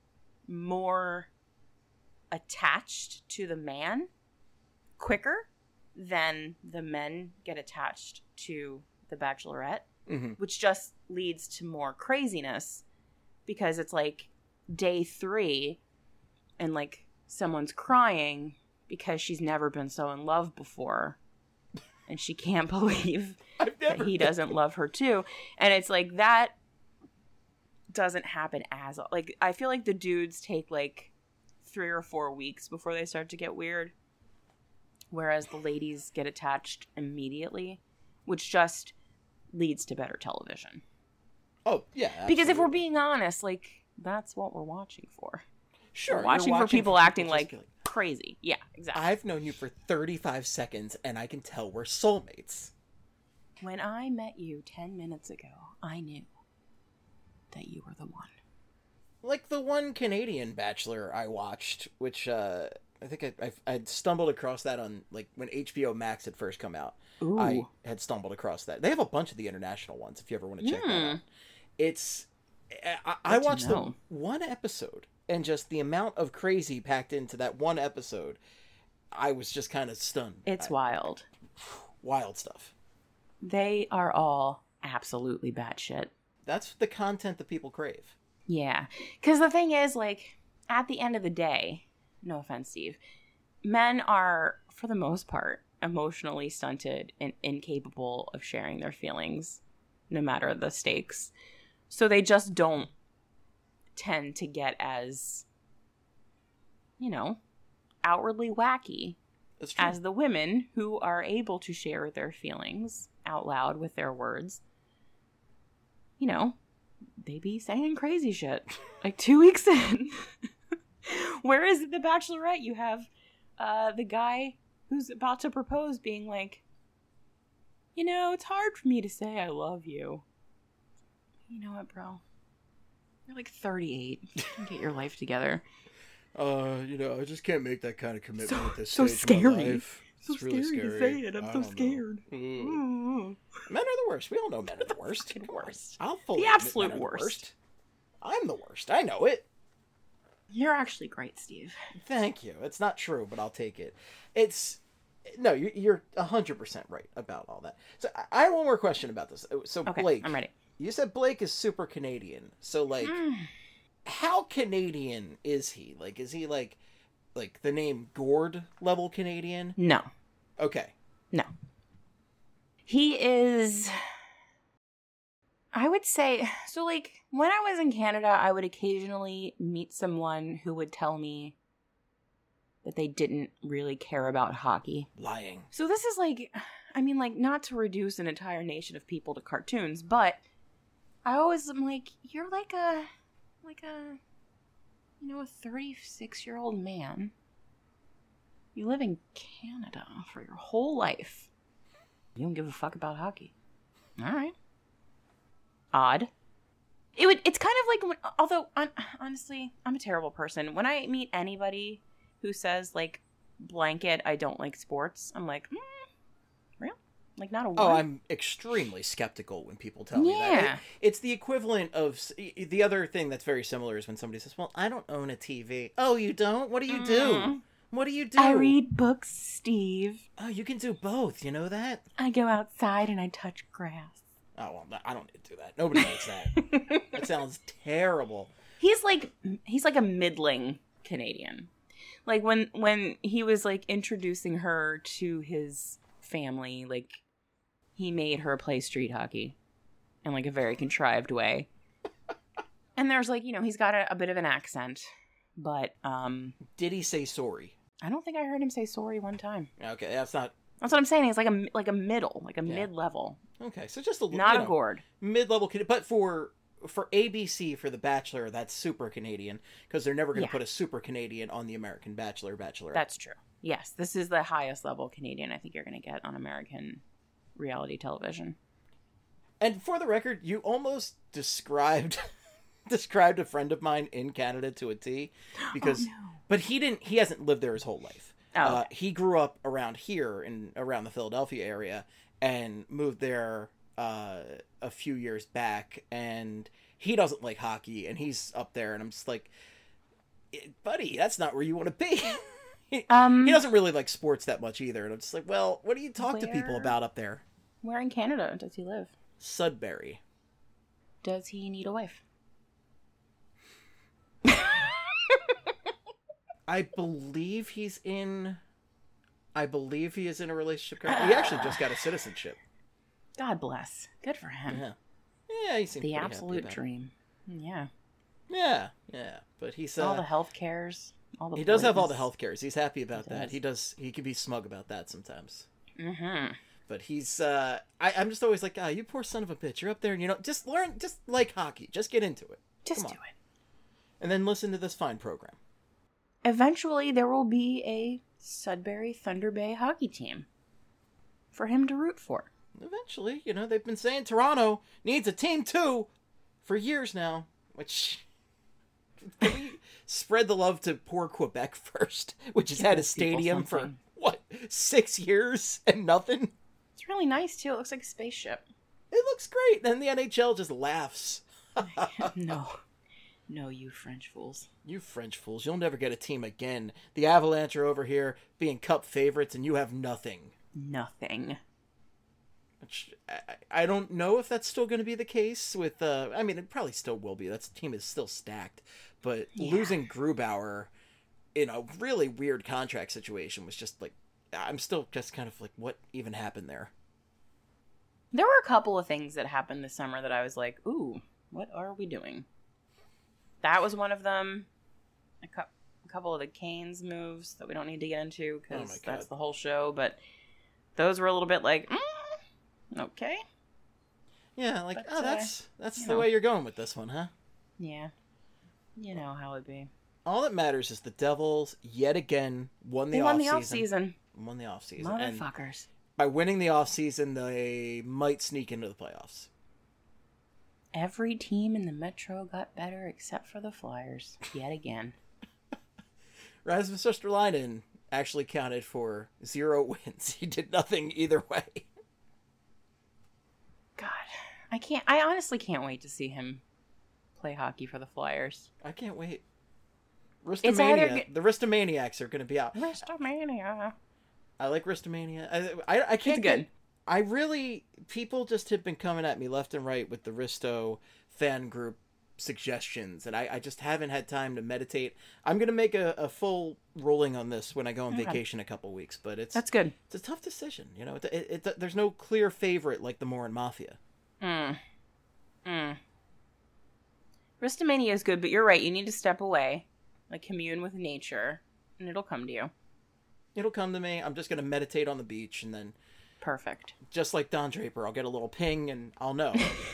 S5: more attached to the man quicker than the men get attached to The Bachelorette,
S4: Mm-hmm.
S5: which just leads to more craziness because it's like day three and like someone's crying because she's never been so in love before and she can't believe
S4: I've
S5: that
S4: never
S5: he
S4: been-
S5: doesn't love her too. And it's like that doesn't happen as like I feel like the dudes take like three or four weeks before they start to get weird, whereas the ladies get attached immediately, which just leads to better television.
S4: Oh yeah,
S5: Because if we're
S4: absolutely.
S5: being honest, like that's what we're watching for.
S4: sure,
S5: We're
S4: you're
S5: watching, for people
S4: just
S5: acting like
S4: killing-
S5: crazy. Yeah, exactly.
S4: I've known you for thirty-five seconds, and I can tell we're soulmates.
S5: When I met you ten minutes ago, I knew that you were the one.
S4: Like the one Canadian Bachelor I watched, which uh, I think I I I'd stumbled across that on like when H B O Max had first come out.
S5: Ooh.
S4: I had stumbled across that. They have a bunch of the international ones. If you ever want to check that
S5: Hmm.
S4: out, it's I, I
S5: Good to
S4: watched the
S5: know.
S4: one episode, and just the amount of crazy packed into that one episode, I was just kind of stunned.
S5: It's
S4: I-
S5: wild.
S4: wild stuff.
S5: They are all absolutely batshit.
S4: That's the content that people crave.
S5: Yeah. Because the thing is, like, at the end of the day, no offense, Steve, men are, for the most part, emotionally stunted and incapable of sharing their feelings, no matter the stakes. So they just don't tend to get as, you know, outwardly wacky
S4: That's true.
S5: as the women who are able to share their feelings out loud with their words. You know, they be saying crazy shit. Like two weeks in. Whereas The Bachelorette, you have uh, the guy who's about to propose being like, you know, it's hard for me to say I love you. You know what, bro? You're like thirty-eight. Get your life together.
S4: Uh, you know, I just can't make that kind of commitment
S5: So-
S4: at this
S5: so
S4: stage of my
S5: scary.
S4: life.
S5: So
S4: It's really
S5: scary to
S4: scary.
S5: say it. I'm
S4: I
S5: so
S4: don't know.
S5: scared.
S4: Ugh.
S5: Mm.
S4: Men are the worst. We all know men are the worst.
S5: Fucking worst.
S4: I'll fully
S5: The
S4: admit
S5: absolute
S4: men are the
S5: worst.
S4: I'm the worst. I know it.
S5: You're actually great, Steve.
S4: Thank you. It's not true, but I'll take it. It's no, you- you're a hundred percent right about all that. So I- I have one more question about this. So
S5: Okay,
S4: Blake,
S5: I'm ready.
S4: you said Blake is super Canadian. So like,
S5: Mm.
S4: how Canadian is he? Like, is he like, like the name Gord level Canadian?
S5: No.
S4: Okay.
S5: No. He is, I would say, so like when I was in Canada, I would occasionally meet someone who would tell me that they didn't really care about hockey.
S4: Lying.
S5: So this is like, I mean, like, not to reduce an entire nation of people to cartoons, but I always am like, you're like a, like a, you know, a thirty-six-year-old man. You live in Canada for your whole life. You don't give a fuck about hockey. All right. Odd. It would. It's kind of like, when, although, on, honestly, I'm a terrible person. When I meet anybody who says, like, blanket, I don't like sports, I'm like, mm, real? Like, not a word?
S4: Oh, I'm extremely skeptical when people tell me that.
S5: Yeah.
S4: It- it's the equivalent of the other thing that's very similar is when somebody says, "Well, I don't own a T V." Oh, you don't? What do you do?
S5: Mm.
S4: What do you do?
S5: I read books, Steve.
S4: Oh, you can do both. You know that?
S5: I go outside and I touch grass.
S4: Oh, well, I don't need to do that. Nobody likes that. That sounds terrible.
S5: He's like he's like a middling Canadian. Like when when he was like introducing her to his family, like he made her play street hockey in like a very contrived way. And there's like, you know, he's got a, a bit of an accent, but um
S4: Did he say sorry?
S5: I don't think I heard him say sorry one time.
S4: Okay, that's not
S5: That's what I'm saying. He's like a like a middle, like a
S4: Yeah.
S5: mid-level,
S4: okay. So just a little,
S5: not
S4: you
S5: a
S4: know,
S5: gourd.
S4: mid-level, Can- but for for A B C for The Bachelor, that's super Canadian because they're never going to
S5: Yeah.
S4: put a super Canadian on the American Bachelor, Bachelorette.
S5: That's true. Yes, this is the highest level Canadian I think you're going to get on American reality television.
S4: And for the record, you almost described described a friend of mine in Canada to a T, because,
S5: Oh, no.
S4: but he didn't. He hasn't lived there his whole life.
S5: Oh,
S4: Uh,
S5: okay.
S4: he grew up around here in around the Philadelphia area and moved there uh, a few years back. And he doesn't like hockey, and he's up there, and I'm just like, "Eh, buddy, that's not where you want to be. he,
S5: Um,
S4: he doesn't really like sports that much either. And I'm just like, well, what do you talk to people
S5: Where-
S4: about up there?
S5: Where in Canada does he live?
S4: Sudbury.
S5: Does he need a wife?
S4: I believe he's in. I believe he is in a relationship currently. He actually just got a citizenship.
S5: God bless. Good for him.
S4: Yeah, yeah, he seems
S5: The
S4: pretty happy
S5: absolute
S4: about it.
S5: dream. Yeah.
S4: Yeah, yeah, but he's uh,
S5: all the health cares. All the
S4: he does have all the
S5: boys.
S4: health cares. He's happy about
S5: He
S4: that.
S5: does.
S4: He does. He can be smug about that sometimes.
S5: Mm-hmm.
S4: But he's. uh I, I'm just always like, ah, oh, you poor son of a bitch. You're up there, and you know, just learn, just like hockey. Just get into it,
S5: Just
S4: Come
S5: do
S4: on.
S5: it.
S4: and then listen to this fine program.
S5: Eventually, there will be a Sudbury Thunder Bay hockey team for him to root for.
S4: Eventually, you know, they've been saying Toronto needs a team too for years now, which can we spread the love to poor Quebec first, which has
S5: Give
S4: had a
S5: those people
S4: stadium for
S5: something.
S4: what, six years and nothing?
S5: It's really nice, too. It looks like a spaceship.
S4: It looks great. Then the N H L just laughs.
S5: No. No, you French fools.
S4: You French fools, you'll never get a team again. The Avalanche are over here being cup favorites and you have nothing.
S5: Nothing.
S4: Which I, I don't know if that's still going to be the case with, uh, I mean, it probably still will be. That team is still stacked. But
S5: Yeah.
S4: losing Grubauer in a really weird contract situation was just like, I'm still just kind of like, what even happened there?
S5: There were a couple of things that happened this summer that I was like, ooh, what are we doing? That was one of them. A, cu- a couple of the Canes moves that we don't need to get into
S4: Oh my
S5: because
S4: God.
S5: that's the whole show. But those were a little bit like, mm, okay.
S4: Yeah, like,
S5: But,
S4: oh,
S5: uh,
S4: that's that's
S5: you
S4: the
S5: know.
S4: way you're going with this one, huh?
S5: Yeah. You know how it be.
S4: All that matters is the Devils yet again won the
S5: They won
S4: off
S5: the off
S4: season.
S5: season.
S4: Won the off season. And
S5: Motherfuckers.
S4: by winning the off season, they might sneak into the playoffs.
S5: Every team in the Metro got better except for the Flyers. Yet again.
S4: Rasmus Österleinen actually counted for zero wins. He did nothing either way.
S5: God. I can't I honestly can't wait to see him play hockey for the Flyers.
S4: I can't wait.
S5: It's
S4: Ristomania.
S5: either-
S4: The Ristomaniacs are going to be out.
S5: Wrestlemania.
S4: I like Ristomania. I, I, I can't
S5: It's good.
S4: get- I really... People just have been coming at me left and right with the Risto fan group suggestions, and I, I just haven't had time to meditate. I'm going to make a, a full ruling on this when I go on
S5: Okay.
S4: vacation in a couple weeks, but it's
S5: That's good.
S4: it's a tough decision. You know, it, it, it, there's no clear favorite like the Morin Mafia.
S5: Mm. Mm. Wrestlemania is good, but you're right. You need to step away. Like, commune with nature, and it'll come to you.
S4: It'll come to me. I'm just going to meditate on the beach, and then,
S5: Perfect.
S4: just like Don Draper, I'll get a little ping, and I'll know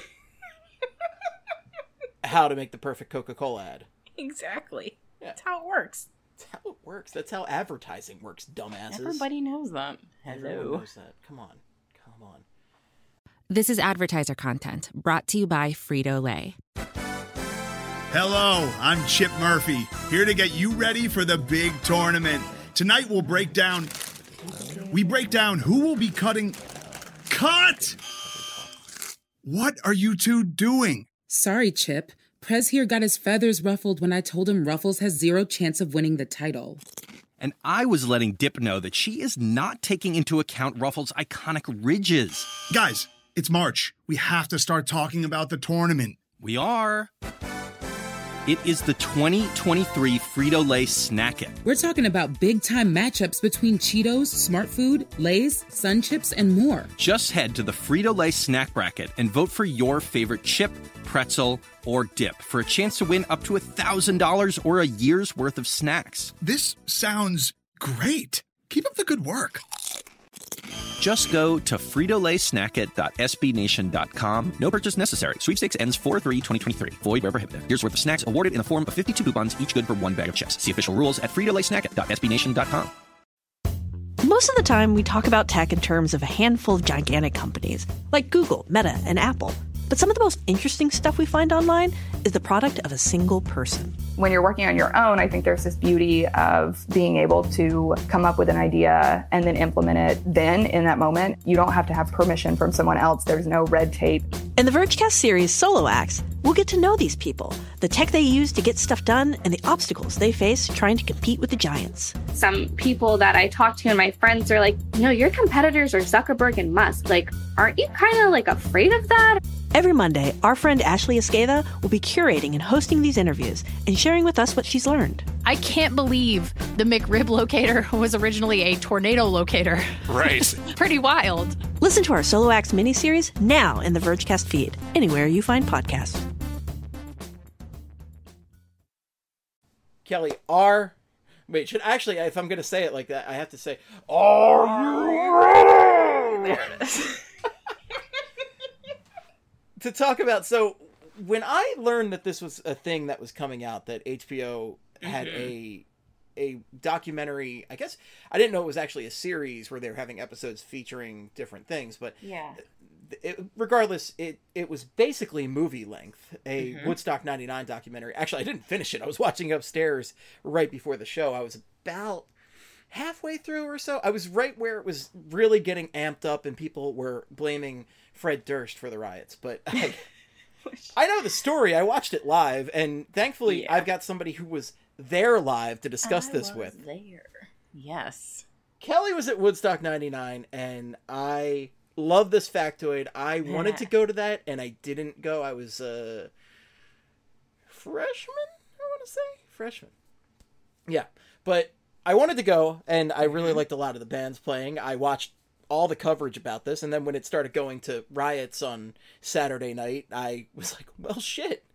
S4: how to make the perfect Coca-Cola ad.
S5: Exactly.
S4: Yeah.
S5: That's how it works.
S4: That's how it works. That's how advertising works, dumbasses.
S5: Everybody knows that.
S4: Everyone
S5: Hello.
S4: knows that. Come on. Come on.
S2: This is advertiser content brought to you by Frito-Lay.
S6: Hello, I'm Chip Murphy, here to get you ready for the big tournament. Tonight we'll break down... We break down who will be cutting... Cut! What are you two doing?
S7: Sorry, Chip. Prez here got his feathers ruffled when I told him Ruffles has zero chance of winning the title.
S8: And I was letting Dip know that she is not taking into account Ruffles' iconic ridges.
S6: Guys, it's March. We have to start talking about the tournament.
S8: We are. It is the twenty twenty-three Frito-Lay Snack It.
S7: We're talking about big-time matchups between Cheetos, Smart Food, Lay's, Sun Chips, and more.
S8: Just head to the Frito-Lay Snack Bracket and vote for your favorite chip, pretzel, or dip for a chance to win up to one thousand dollars or a year's worth of snacks.
S6: This sounds great. Keep up the good work.
S8: Just go to frito lay snack it dot s b nation dot com. No purchase necessary. Sweepstakes ends four three twenty twenty-three. Void where prohibited. Here's worth of snacks awarded in the form of fifty-two coupons, each good for one bag of chips. See official rules at frito lay snack it dot s b nation dot com.
S9: Most of the time, we talk about tech in terms of a handful of gigantic companies, like Google, Meta, and Apple. But some of the most interesting stuff we find online is the product of a single person.
S10: When you're working on your own, I think there's this beauty of being able to come up with an idea and then implement it then in that moment. You don't have to have permission from someone else. There's no red tape.
S9: In the Vergecast series Solo Acts, we'll get to know these people, the tech they use to get stuff done, and the obstacles they face trying to compete with the giants.
S11: Some people that I talk to and my friends are like, you know, your competitors are Zuckerberg and Musk. Like, aren't you kind of like afraid of that?
S9: Every Monday, our friend Ashley Esqueda will be curating and hosting these interviews and sharing with us what she's learned.
S12: I can't believe the McRib locator was originally a tornado locator.
S13: Right.
S12: Pretty wild.
S9: Listen to our Solo Acts miniseries now in the Vergecast feed, anywhere you find podcasts.
S4: Kelly, are... Wait, should actually, if I'm going to say it like that, I have to say, are you ready?
S5: There it is.
S4: To talk about, so when I learned that this was a thing that was coming out, that H B O had
S5: Mm-hmm.
S4: a a documentary, I guess I didn't know it was actually a series where they were having episodes featuring different things, but
S5: Yeah.
S4: it, regardless, it it was basically movie length, a
S5: Mhm.
S4: Woodstock ninety-nine documentary. Actually, I didn't finish it. I was watching upstairs right before the show. I was about halfway through or so. I was right where it was really getting amped up and people were blaming Fred Durst for the riots, but I, I know the story. I watched it live, and thankfully
S5: Yeah.
S4: I've got somebody who was there live to discuss
S5: I
S4: this
S5: was
S4: with.
S5: There. Yes.
S4: Kelly was at Woodstock ninety-nine, and I love this factoid. I wanted to go to that, and I didn't go. I was a freshman, I want to say. Freshman. Yeah, but I wanted to go, and I really liked a lot of the bands playing. I watched all the coverage about this, and then when it started going to riots on Saturday night, I was like, well, shit.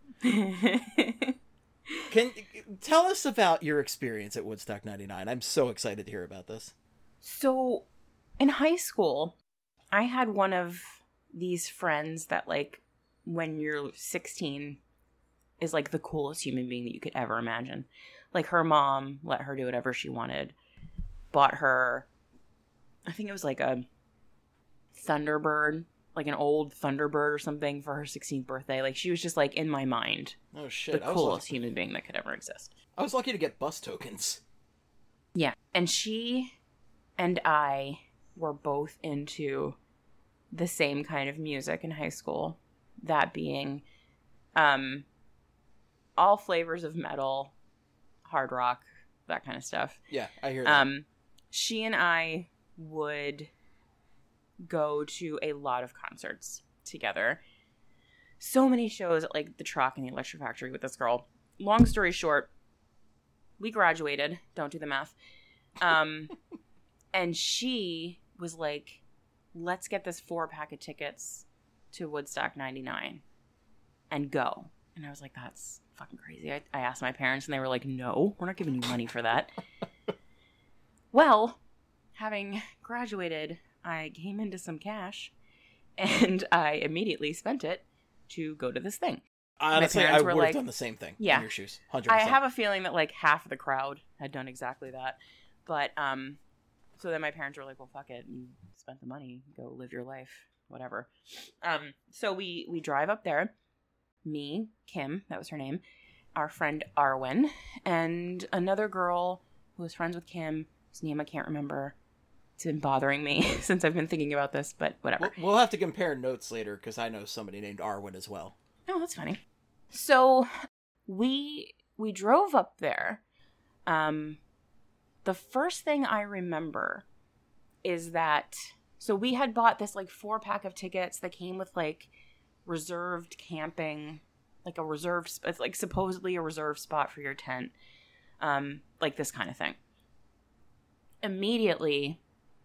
S4: Can tell us about your experience at Woodstock ninety-nine. I'm so excited to hear about this.
S5: So, in high school, I had one of these friends that, like, when you're sixteen is, like, the coolest human being that you could ever imagine. Like, her mom let her do whatever she wanted. Bought her, I think it was, like, a Thunderbird, like an old Thunderbird or something for her sixteenth birthday. Like, she was just, like, in my mind.
S4: Oh, shit.
S5: The
S4: I was
S5: coolest
S4: lucky.
S5: human being that could ever exist.
S4: I was lucky to get bus tokens.
S5: Yeah. And she and I were both into the same kind of music in high school. That being um, all flavors of metal, hard rock, that kind of stuff.
S4: Yeah, I hear that.
S5: Um, she and I would go to a lot of concerts together. So many shows at, like, the Troc and the Electric Factory with this girl. Long story short, we graduated. Don't do the math. Um, and she was like, let's get this four pack of tickets to Woodstock ninety-nine and go. And I was like, that's fucking crazy. I, I asked my parents and they were like, no, we're not giving you money for that. Well, having graduated, I came into some cash and I immediately spent it to go to this thing.
S4: Honestly, I would have done the same thing
S5: yeah,
S4: in your shoes. one hundred percent.
S5: I have a feeling that, like, half of the crowd had done exactly that. But, um, so then my parents were like, well, fuck it. You spent the money. Go live your life. Whatever. Um, so we, we drive up there. Me, Kim, that was her name, our friend Arwen, and another girl who was friends with Kim, whose name I can't remember. It's been bothering me since I've been thinking about this, but whatever.
S4: We'll, we'll have to compare notes later because I know somebody named Arwen as well.
S5: Oh, that's funny. So we we drove up there. Um, the first thing I remember is that, so we had bought this, like, four pack of tickets that came with, like, reserved camping, like a reserved, it's like supposedly a reserved spot for your tent, um, like this kind of thing. Immediately,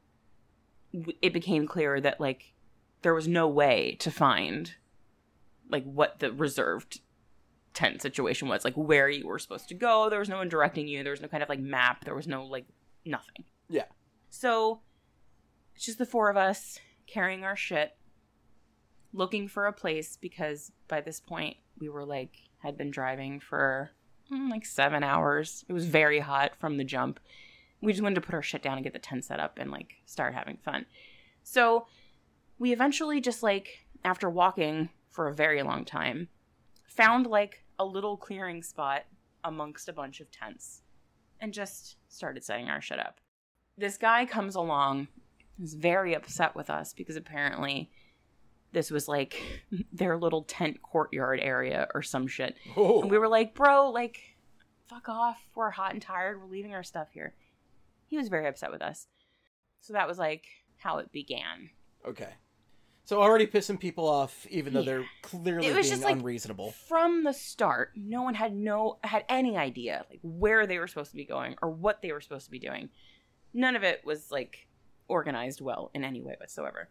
S5: it became clear that, like, there was no way to find, like, what the reserved tent situation was, like, where you were supposed to go. There was no one directing you. There was no kind of, like, map. There was no, like, nothing.
S4: Yeah. So
S5: it's just the four of us carrying our shit, looking for a place, because by this point we were, like, had been driving for mm, like seven hours. It was very hot from the jump. We just wanted to put our shit down and get the tent set up and, like, start having fun. So we eventually just, like, after walking for a very long time, found, like, a little clearing spot amongst a bunch of tents and just started setting our shit up. This guy comes along, is very upset with us because apparently this was, like, their little tent courtyard area or some shit. Oh. And we were like, bro, like, fuck off. We're hot and tired. We're leaving our stuff here. He was very upset with us. So that was, like, how it began.
S4: Okay. So already pissing people off, even though
S5: Yeah.
S4: they're clearly
S5: It was
S4: being
S5: just, like,
S4: unreasonable.
S5: From the start, no one had no had any idea, like, where they were supposed to be going or what they were supposed to be doing. None of it was, like, organized well in any way whatsoever.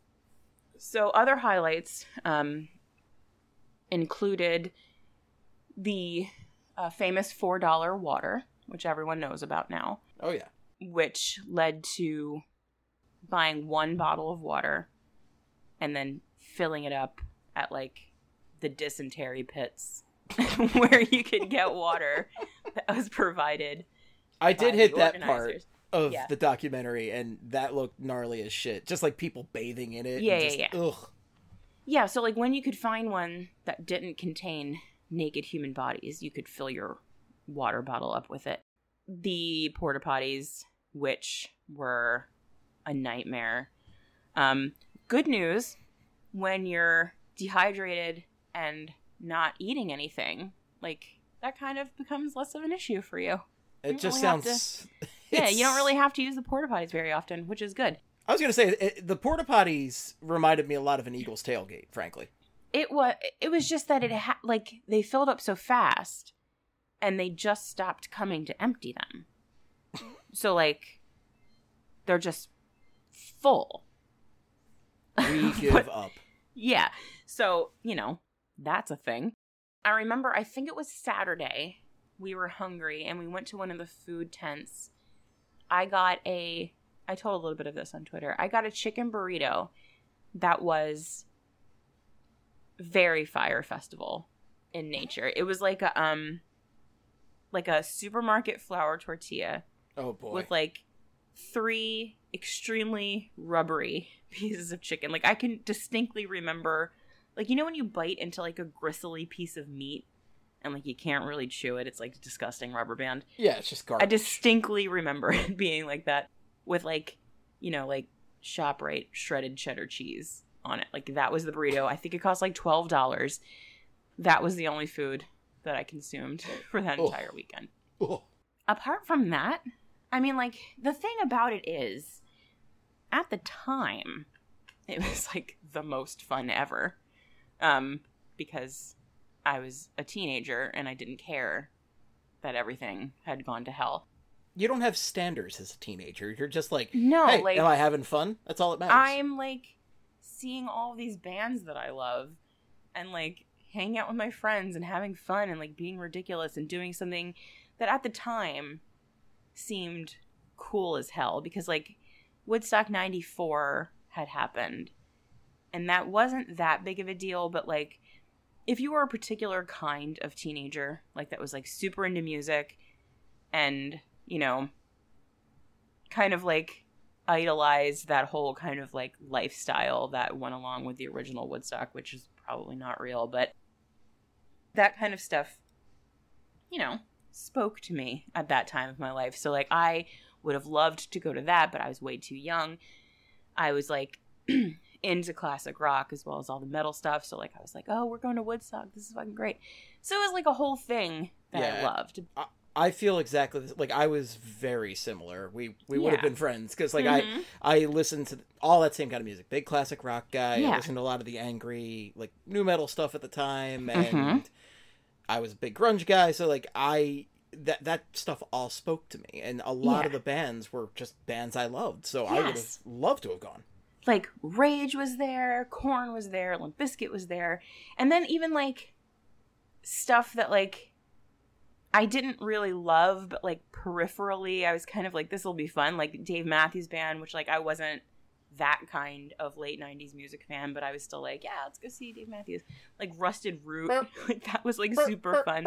S5: So other highlights um, included the uh, famous four dollar water, which everyone knows about now.
S4: Oh, yeah.
S5: Which led to buying one bottle of water and then filling it up at, like, the dysentery pits where you could get water that was provided.
S4: I did
S5: by
S4: hit
S5: the
S4: that part
S5: organizers.
S4: of
S5: Yeah.
S4: the documentary, and that looked gnarly as shit. Just, like, people bathing in it.
S5: Yeah,
S4: and
S5: yeah,
S4: just,
S5: yeah.
S4: Ugh.
S5: Yeah, so, like, when you could find one that didn't contain naked human bodies, you could fill your water bottle up with it. The porta potties, which were a nightmare. Um, good news, when you're dehydrated and not eating anything, like, that kind of becomes less of an issue for you.
S4: It
S5: You don't
S4: just
S5: really have
S4: sounds...
S5: to- yeah, you don't really have to use the porta potties very often, which is good.
S4: I was going to say, it, the porta potties reminded me a lot of an Eagles tailgate, frankly.
S5: It was it was just that it ha- like they filled up so fast and they just stopped coming to empty them. So, like, they're just full.
S4: We give
S5: But-
S4: up.
S5: Yeah. So, you know, that's a thing. I remember, I think it was Saturday. We were hungry and we went to one of the food tents. I got a, I told a little bit of this on Twitter. I got a chicken burrito that was very Fyre Festival in nature. It was like a um like a supermarket flour tortilla.
S4: Oh boy.
S5: With like three extremely rubbery pieces of chicken. Like I can distinctly remember, like, you know when you bite into like a gristly piece of meat and like you can't really chew it, it's like disgusting rubber band.
S4: Yeah, it's just garbage.
S5: I distinctly remember it being like that with like, you know, like ShopRite shredded cheddar cheese on it. Like that was the burrito. I think it cost like twelve dollars. That was the only food that I consumed for that
S4: Oh.
S5: entire weekend.
S4: Oh.
S5: Apart from that, I mean, like, the thing about it is, at the time, it was like the most fun ever. Um, because I was a teenager and I didn't care that everything had gone to hell.
S4: You don't have standards as a teenager. You're just like,
S5: No,
S4: hey,
S5: like,
S4: am I having fun? That's all that matters.
S5: I'm like seeing all these bands that I love and like hanging out with my friends and having fun and like being ridiculous and doing something that at the time seemed cool as hell, because like Woodstock ninety-four had happened and that wasn't that big of a deal, but like if you were a particular kind of teenager, like that was like super into music and, you know, kind of like idolized that whole kind of like lifestyle that went along with the original Woodstock, which is probably not real, but that kind of stuff, you know, spoke to me at that time of my life. So like I would have loved to go to that, but I was way too young. I was like into classic rock as well as all the metal stuff. So like I was like, oh, we're going to Woodstock. This is fucking great. So it was like a whole thing that
S4: Yeah.
S5: I loved.
S4: I, I feel exactly this. Like I was very similar. We we would have
S5: Yeah.
S4: been friends because like
S5: Mhm.
S4: I I listened to all that same kind of music. Big classic rock guy.
S5: Yeah.
S4: I listened to a lot of the angry like new metal stuff at the time, and
S5: Mhm.
S4: I was a big grunge guy. So like I that that stuff all spoke to me, and a lot
S5: Yeah.
S4: of the bands were just bands I loved. So I would have
S5: Yes.
S4: loved to have gone.
S5: Like Rage was there, Korn was there, Limp Bizkit was there, and then even like stuff that like I didn't really love, but like peripherally I was kind of like, this will be fun, like Dave Matthews Band, which like I wasn't that kind of late nineties music fan, but I was still like, yeah, let's go see Dave Matthews. Like Rusted Root, like that was like super fun.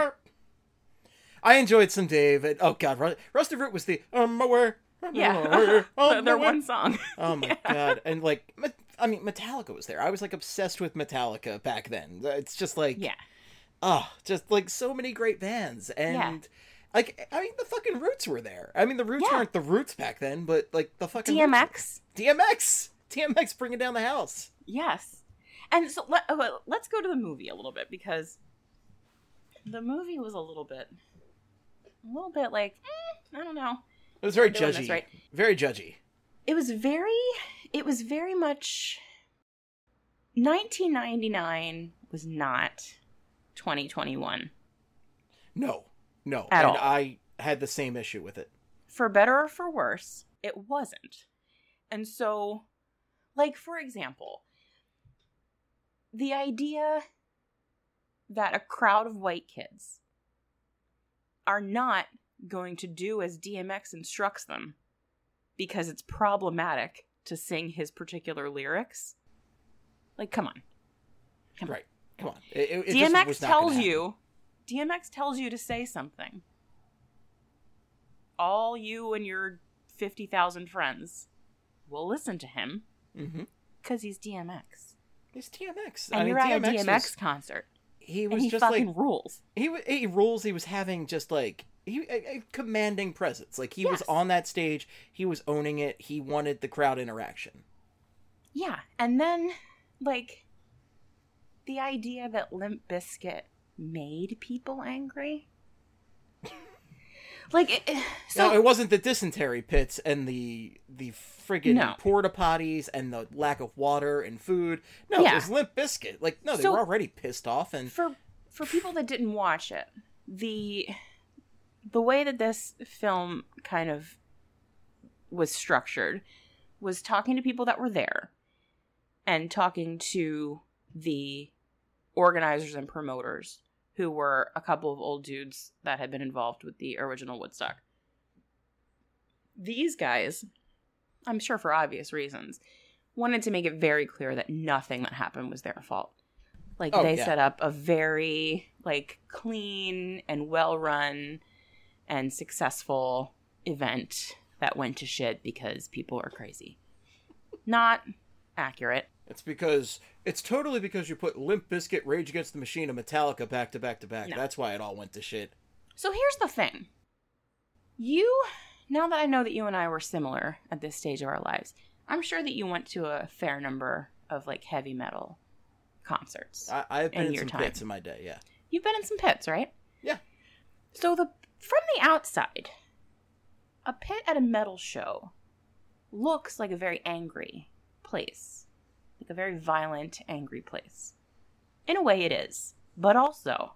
S4: I enjoyed some Dave. And, oh god, Ru- Rusted Root was the um aware.
S5: Yeah, their one song.
S4: Oh my god, and like, Me- I mean, Metallica was there. I was like obsessed with Metallica back then. It's just like,
S5: yeah,
S4: oh, just like so many great bands, and
S5: Yeah.
S4: like, I mean, the fucking Roots were there. I mean, the Roots
S5: Yeah.
S4: weren't the Roots back then, but like the fucking
S5: D M
S4: Roots-
S5: X.
S4: D M X, D M X, bringing down the house.
S5: Yes. And so let, uh, let's go to the movie a little bit, because the movie was a little bit, a little bit like, eh, I don't know.
S4: It was very
S5: I'm doing
S4: judgy,
S5: this right.
S4: very judgy.
S5: It was very, it was very much, nineteen ninety-nine was not twenty twenty-one.
S4: No, no,
S5: At
S4: and
S5: all.
S4: I had the same issue with it.
S5: For better or for worse, it wasn't. And so, like, for example, the idea that a crowd of white kids are not going to do as D M X instructs them because it's problematic to sing his particular lyrics. Like, come on. Come
S4: right. Come on. It, it, it
S5: D M X
S4: just was not gonna
S5: tells
S4: happen.
S5: you, D M X tells you to say something. All you and your fifty thousand friends will listen to him because he's D M X.
S4: He's D M X.
S5: And
S4: I mean,
S5: you're at
S4: D M X
S5: a D M X
S4: was-
S5: concert.
S4: He
S5: and
S4: was
S5: he
S4: just
S5: fucking
S4: like
S5: rules.
S4: He wa- he rules. He was having just like he a, a commanding presence. Like he was on that stage. He was owning it. He wanted the crowd interaction.
S5: Yeah, and then, like, the idea that Limp Bizkit made people angry. Like, it, it- so
S4: no, it wasn't the dysentery pits and the the friggin'
S5: No.
S4: porta potties and the lack of water and food. No,
S5: Yeah.
S4: it was Limp Bizkit. Like no, they
S5: So-
S4: were already pissed off. And
S5: for for people that didn't watch it, the the way that this film kind of was structured was talking to people that were there and talking to the organizers and promoters, who were a couple of old dudes that had been involved with the original Woodstock. These guys, I'm sure for obvious reasons, wanted to make it very clear that nothing that happened was their fault. Like,
S4: Oh,
S5: they
S4: yeah.
S5: set up a very, like, clean and well-run and successful event that went to shit because people are crazy. Not accurate.
S4: It's because it's totally because you put Limp Bizkit, Rage Against the Machine, and Metallica back to back to back.
S5: No.
S4: That's why it all went to shit.
S5: So here's the thing. You, now that I know that you and I were similar at this stage of our lives, I'm sure that you went to a fair number of, like, heavy metal concerts.
S4: I, I've been in,
S5: your
S4: some
S5: time.
S4: pits in my day, yeah.
S5: You've been in some pits, right?
S4: Yeah.
S5: So the from the outside, a pit at a metal show looks like a very angry place. Like a very violent, angry place. In a way it is. But also,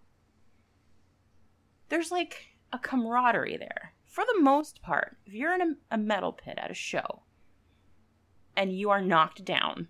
S5: there's like a camaraderie there. For the most part, if you're in a, a metal pit at a show and you are knocked down,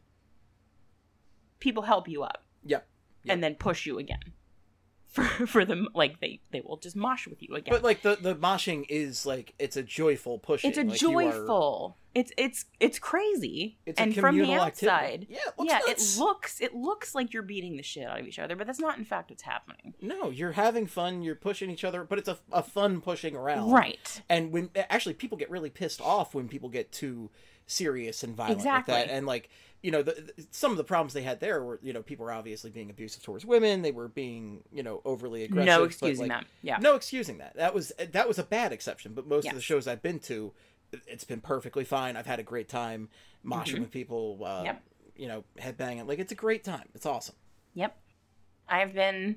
S5: people help you up.
S4: Yep. yep.
S5: And then push you again. For for them, like, they, they will just mosh with you again.
S4: But, like, the, the moshing is, like, it's a joyful pushing.
S5: It's a
S4: like, you are-
S5: joyful. It's it's it's crazy.
S4: It's a
S5: and from the
S4: communal
S5: outside,
S4: activity. Yeah, it looks
S5: yeah,
S4: nuts.
S5: it looks it looks like you're beating the shit out of each other, but that's not in fact what's happening.
S4: No, you're having fun, you're pushing each other, but it's a, a fun pushing around.
S5: Right.
S4: And when, actually, people get really pissed off when people get too serious and violent
S5: Exactly.
S4: like that. And, like, you know, the, the, some of the problems they had there were, you know, people were obviously being abusive towards women. They were being, you know, overly aggressive.
S5: No
S4: but,
S5: excusing
S4: like,
S5: that. Yeah.
S4: No excusing that. That was that was a bad exception. But most
S5: Yes.
S4: of the shows I've been to, it's been perfectly fine. I've had a great time moshing
S5: Mhm.
S4: with people, uh,
S5: Yep.
S4: you know, headbanging. Like, it's a great time. It's awesome.
S5: Yep. I've been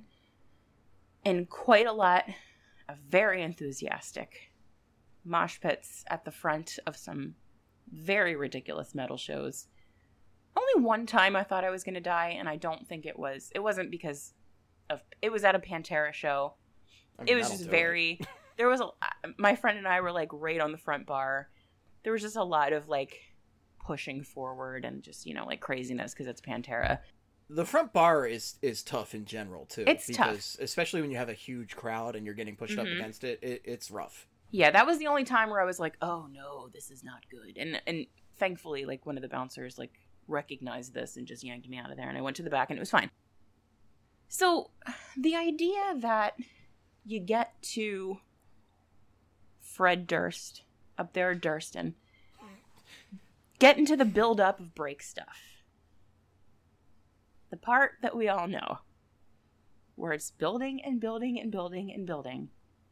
S5: in quite a lot of very enthusiastic mosh pits at the front of some very ridiculous metal shows. Only one time I thought I was going to die, and I don't think it was. It wasn't because of... It was at a Pantera show.
S4: I mean,
S5: It was
S4: that'll
S5: just
S4: do
S5: very... There was a... My friend and I were, like, right on the front bar. There was just a lot of, like, pushing forward and just, you know, like, craziness because it's Pantera.
S4: The front bar is is tough in general too.
S5: It's
S4: because, tough, especially when you have a huge crowd and you're getting pushed up
S5: Mhm.
S4: against it, it. It's rough.
S5: Yeah, that was the only time where I was like, "Oh no, this is not good." And and thankfully, like, one of the bouncers like recognized this and just yanked me out of there, and I went to the back and it was fine. So, the idea that you get to Fred Durst up there, Durston, get into the build up of break stuff. The part that we all know, where it's building and building and building and building.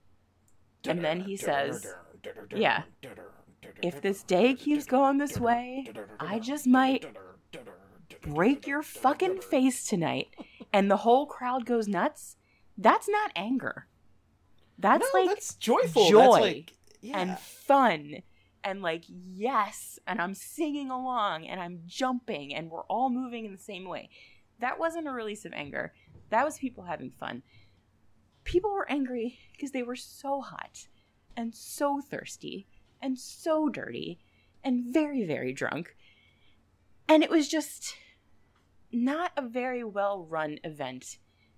S5: And then he says, yeah, if this day keeps going this way, I just might break your fucking face tonight. And the whole crowd goes nuts. That's not anger. That's
S4: No,
S5: like
S4: that's joyful.
S5: joy
S4: That's like- yeah.
S5: and fun. And like, yes, and I'm singing along and I'm jumping and we're all moving in the same way. That wasn't a release of anger. That was people having fun. People were angry because they were so hot and so thirsty and so dirty and very, very drunk. And it was just not a very well-run event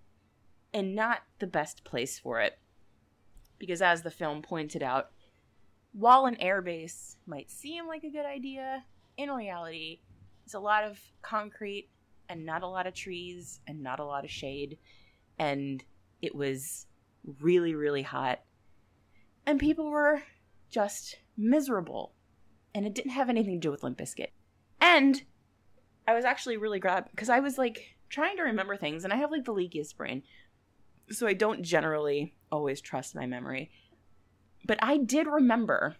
S5: and not the best place for it. Because as the film pointed out, while an airbase might seem like a good idea, in reality, it's a lot of concrete and not a lot of trees and not a lot of shade. And it was really, really hot. And people were just miserable. And it didn't have anything to do with Limp Bizkit. And I was actually really glad because I was like trying to remember things and I have like the leakiest brain. So I don't generally always trust my memory. But I did remember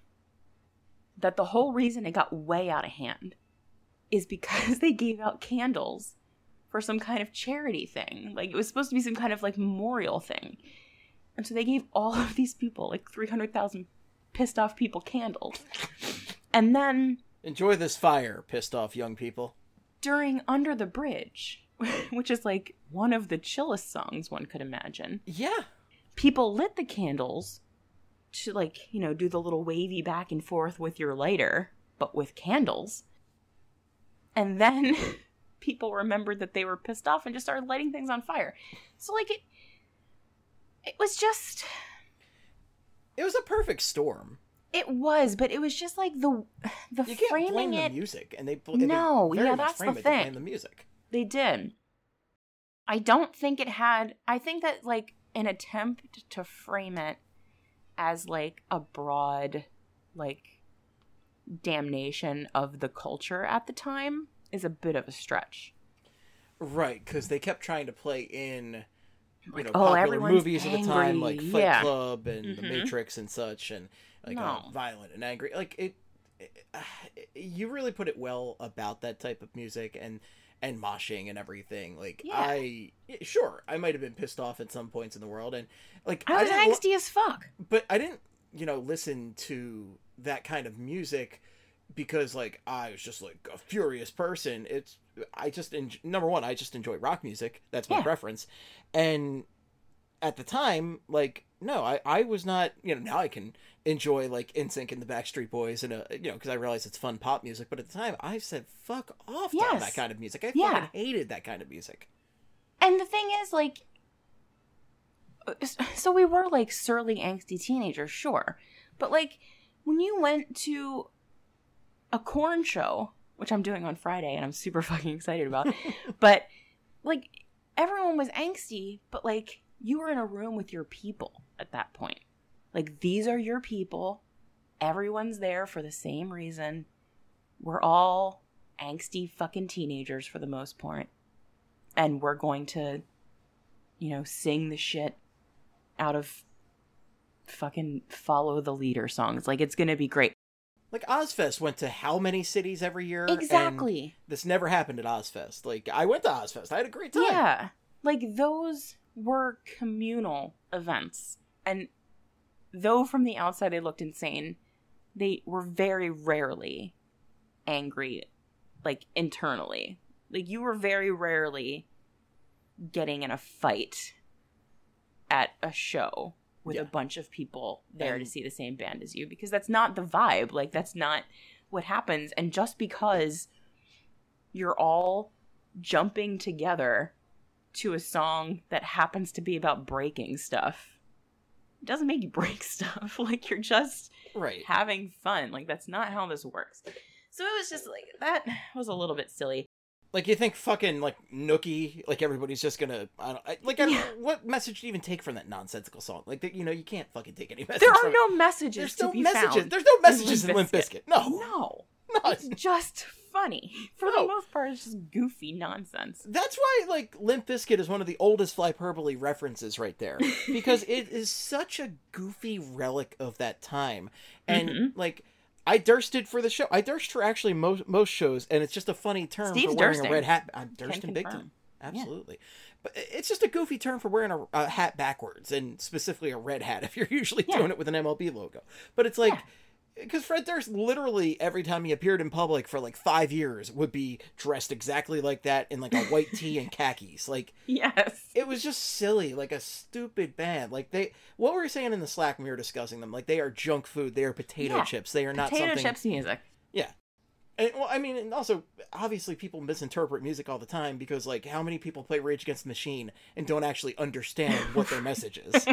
S5: that the whole reason it got way out of hand is because they gave out candles for some kind of charity thing. Like, it was supposed to be some kind of, like, memorial thing. And so they gave all of these people, like, three hundred thousand pissed off people candles. And then...
S4: Enjoy this fire, pissed off young people.
S5: During Under the Bridge, which is, like, one of the chillest songs one could imagine.
S4: Yeah.
S5: People lit the candles to, like, you know, do the little wavy back and forth with your lighter, but with candles. And then people remembered that they were pissed off and just started lighting things on fire. So, like, it it was just...
S4: It was a perfect storm.
S5: It was, but it was just like the the
S4: you can't
S5: framing
S4: blame
S5: it.
S4: the music, and they
S5: no,
S4: they very
S5: yeah,
S4: much
S5: that's
S4: frame
S5: the
S4: it to blame
S5: thing.
S4: the music.
S5: They did. I don't think it had. I think that like an attempt to frame it as like a broad, like damnation of the culture at the time is a bit of a stretch.
S4: Right, because they kept trying to play in, you know,
S5: oh,
S4: popular
S5: everyone's
S4: movies
S5: angry.
S4: of the time, like Fight
S5: yeah.
S4: Club and
S5: mm-hmm.
S4: The Matrix and such, and like
S5: no.
S4: uh, violent and angry. Like it, it uh, you really put it well about that type of music and and moshing and everything. Like
S5: yeah.
S4: I, sure, I might have been pissed off at some points in the world, and like
S5: I was
S4: I
S5: angsty lo- as fuck.
S4: But I didn't, you know, listen to that kind of music because like I was just like a furious person. It's I just en- number one, I just enjoy rock music. That's my
S5: yeah.
S4: preference. And at the time, like no, I, I was not. You know, now I can enjoy like N Sync and the Backstreet Boys and a you know because I realize it's fun pop music. But at the time, I said fuck off
S5: yes.
S4: to that kind of music. I
S5: yeah.
S4: fucking hated that kind of music.
S5: And the thing is, like, so we were like surly, angsty teenagers, sure, but like when you went to a Korn show, which I'm doing on Friday and I'm super fucking excited about, but like everyone was angsty, but like you were in a room with your people at that point. Like these are your people. Everyone's there for the same reason. We're all angsty fucking teenagers for the most part. And we're going to, you know, sing the shit out of fucking follow the leader songs. Like it's going to be great.
S4: Like Ozfest went to how many cities every year?
S5: Exactly.
S4: And this never happened at Ozfest. Like I went to Ozfest. I had a great time.
S5: Yeah. Like those were communal events. And though from the outside they looked insane, they were very rarely angry, like internally. Like you were very rarely getting in a fight at a show with
S4: yeah.
S5: a bunch of people there
S4: and,
S5: to see the same band as you, because that's not the vibe. Like that's not what happens. And just because you're all jumping together to a song that happens to be about breaking stuff, it doesn't make you break stuff. Like you're just
S4: right.
S5: having fun. Like that's not how this works. So it was just like, that was a little bit silly.
S4: Like, you think fucking, like, Nookie, like, everybody's just gonna, I don't, I, like, I don't,
S5: Yeah.
S4: what message do you even take from that nonsensical song? Like, you know, you can't fucking take any message
S5: There are
S4: from
S5: no messages
S4: There's
S5: to
S4: no
S5: be
S4: messages.
S5: found.
S4: There's no messages
S5: in
S4: in Limp
S5: Limp
S4: Bizkit. No.
S5: No.
S4: No.
S5: It's just funny. For
S4: No.
S5: the most part, it's just goofy nonsense.
S4: That's why, like, Limp Bizkit is one of the oldest Flyperbole references right there. Because it is such a goofy relic of that time. And,
S5: Mhm.
S4: like, I dursted for the show. I durst for actually most most shows, and it's just a funny term
S5: Steve's
S4: for wearing
S5: dursting.
S4: a red hat. I'm
S5: Can
S4: dursting big
S5: confirm.
S4: time. Absolutely. But it's just a goofy term for wearing a, a hat backwards, and specifically a red hat if you're usually
S5: Yeah.
S4: doing it with an M L B logo. But it's like...
S5: Yeah.
S4: Because Fred Durst literally, every time he appeared in public for like five years, would be dressed exactly like that in like a white tee and khakis. Like,
S5: Yes.
S4: it was just silly, like a stupid band. Like, they, what were we saying in the Slack when we were discussing them? Like, they are junk food. They are potato
S5: Yeah.
S4: chips. They are not
S5: Potato
S4: something.
S5: chips music.
S4: Yeah. And, well, I mean, and also, obviously, people misinterpret music all the time because, like, how many people play Rage Against the Machine and don't actually understand what their message is?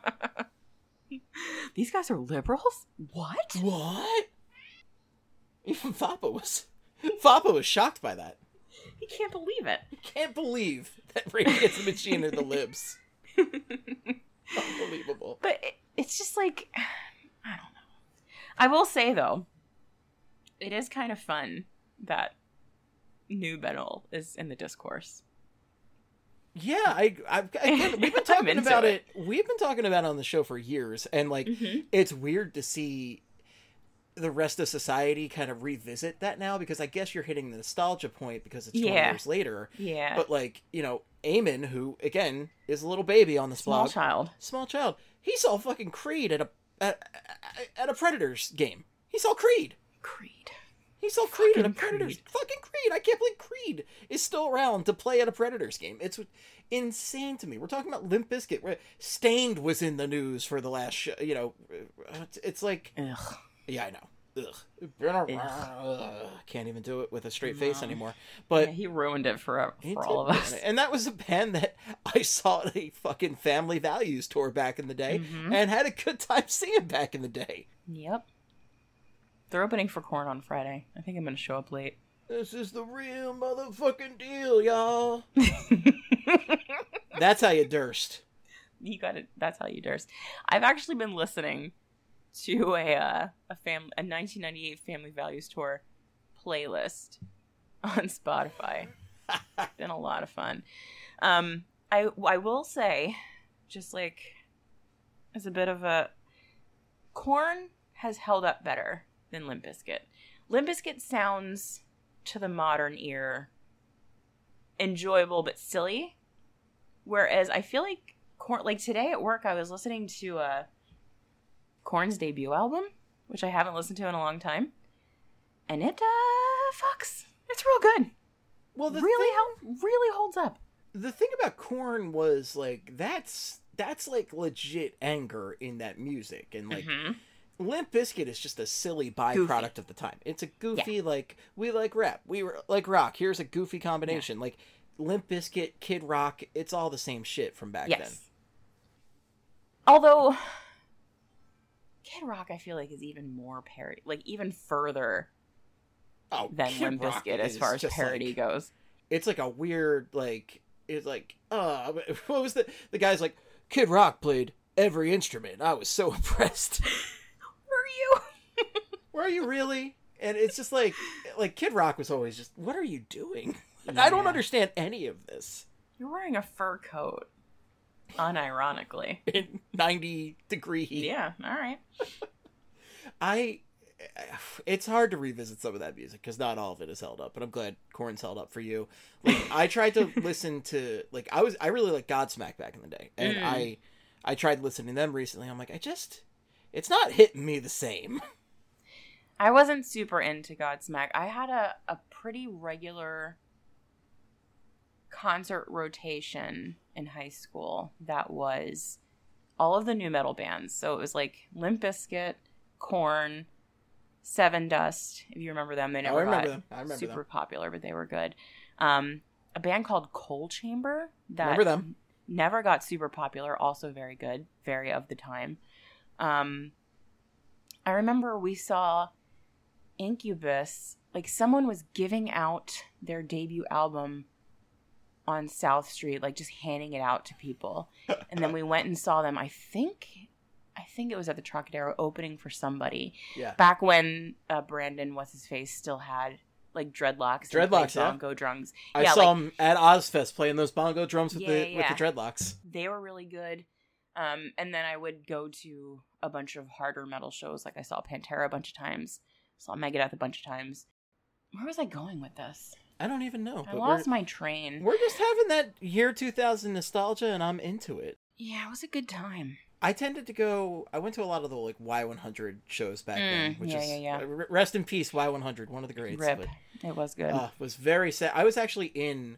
S5: These guys are liberals? What?
S4: What? Even Fappa was, Fappa was shocked by that.
S5: He can't believe it.
S4: Can't believe that Rage Against the Machine are the libs. Unbelievable.
S5: But it, it's just like, I don't know. I will say, though, it is kind of fun that new metal is in the discourse.
S4: Yeah, I, I, again, we've been talking
S5: into
S4: about
S5: it.
S4: it. We've been talking about it on the show for years, and like,
S5: Mhm.
S4: it's weird to see the rest of society kind of revisit that now, because I guess you're hitting the nostalgia point because it's twenty
S5: Yeah.
S4: years later.
S5: Yeah.
S4: But like, you know, Eamon, who again is a little baby on this
S5: Small
S4: blog,
S5: child.
S4: small child, he saw fucking Creed at a at, at a Predators game. He saw Creed.
S5: Creed.
S4: He saw Creed at a
S5: Fucking
S4: Predators.
S5: Creed.
S4: Fucking Creed. I can't believe Creed is still around to play at a Predators game. It's insane to me. We're talking about Limp Bizkit. where Stained was in the news for the last show. You know, it's, it's like...
S5: Ugh.
S4: Yeah, I know. Ugh. Been around- Ugh. Can't even do it with a straight face anymore. But
S5: Yeah, he ruined it for,
S4: he
S5: for
S4: did
S5: all of
S4: ruin
S5: us.
S4: it. And that was a band that I saw at a fucking Family Values tour back in the day
S5: Mhm.
S4: and had a good time seeing back in the day.
S5: Yep. They're opening for Korn on Friday. I think I'm going to show up late.
S4: This is the real motherfucking deal, y'all. That's how you durst.
S5: You got it. That's how you durst. I've actually been listening to a uh, a fam a nineteen ninety-eight Family Values Tour playlist on Spotify. It's been a lot of fun. Um, I I will say, just like as a bit of a, Korn has held up better than Limp Bizkit. Limp Bizkit sounds, to the modern ear, enjoyable but silly, whereas I feel like Korn, like today at work I was listening to uh, Korn's debut album, which I haven't listened to in a long time, and it uh fucks. It's real good.
S4: Well, the
S5: really
S4: thing,
S5: hel- really holds up.
S4: The thing about Korn was like that's that's like legit anger in that music, and like
S5: Mhm.
S4: Limp Bizkit is just a silly byproduct
S5: Goofy.
S4: of the time. It's a goofy
S5: Yeah.
S4: like we like rap, we were like rock. Here's a goofy combination. Like Limp Bizkit, Kid Rock, it's all the same shit from back
S5: Yes.
S4: then.
S5: Although Kid Rock, I feel like, is even more parody, like even further
S4: Oh,
S5: than
S4: Kid
S5: Limp
S4: Rock
S5: Bizkit as
S4: is
S5: far as
S4: just,
S5: parody
S4: like-
S5: goes.
S4: It's like a weird like it's like uh what was the the guy's like Kid Rock played every instrument. I was so impressed.
S5: Were you?
S4: Were you really? And it's just like like Kid Rock was always just, what are you doing? I don't
S5: Yeah.
S4: understand any of this.
S5: You're wearing a fur coat, unironically.
S4: In ninety degree heat.
S5: Yeah, all right.
S4: I it's hard to revisit some of that music because not all of it is held up, but I'm glad Korn's held up for you. Like I tried to listen to like I was I really liked Godsmack back in the day, and
S5: Mm.
S4: I I tried listening to them recently. I'm like I just it's not hitting me the same.
S5: I wasn't super into Godsmack. I had a, a pretty regular concert rotation in high school that was all of the new metal bands. So it was like Limp Bizkit, Korn, Seven Dust, if you remember them. They
S4: I
S5: never
S4: remember
S5: got
S4: them. I remember
S5: super
S4: them.
S5: popular, but they were good. Um, a band called Coal Chamber that
S4: Remember them.
S5: never got super popular, also very good, very of the time. Um, I remember we saw Incubus, like someone was giving out their debut album on South Street, like just handing it out to people. And then we went and saw them. I think I think it was at the Trocadero opening for somebody.
S4: Yeah.
S5: Back when uh, Brandon, what's his face, still had like dreadlocks. and
S4: Dreadlocks,
S5: played
S4: yeah.
S5: bongo drums.
S4: I
S5: yeah,
S4: saw
S5: like,
S4: him at Ozfest playing those bongo drums with
S5: Yeah,
S4: the
S5: yeah,
S4: with the
S5: yeah.
S4: dreadlocks.
S5: They were really good. Um, and then I would go to a bunch of harder metal shows. Like I saw Pantera a bunch of times. Saw Megadeth a bunch of times. Where was I going with this?
S4: I don't even know.
S5: I
S4: but
S5: lost
S4: we're,
S5: my train.
S4: We're just having that year two thousand nostalgia, and I'm into it.
S5: Yeah, it was a good time.
S4: I tended to go. I went to a lot of the like Y one hundred shows back then,
S5: Mm,
S4: which
S5: yeah,
S4: is
S5: yeah, yeah.
S4: uh, rest in peace Y one hundred, one of the greats.
S5: Rip.
S4: But,
S5: It was good.
S4: uh, was very sad. I was actually in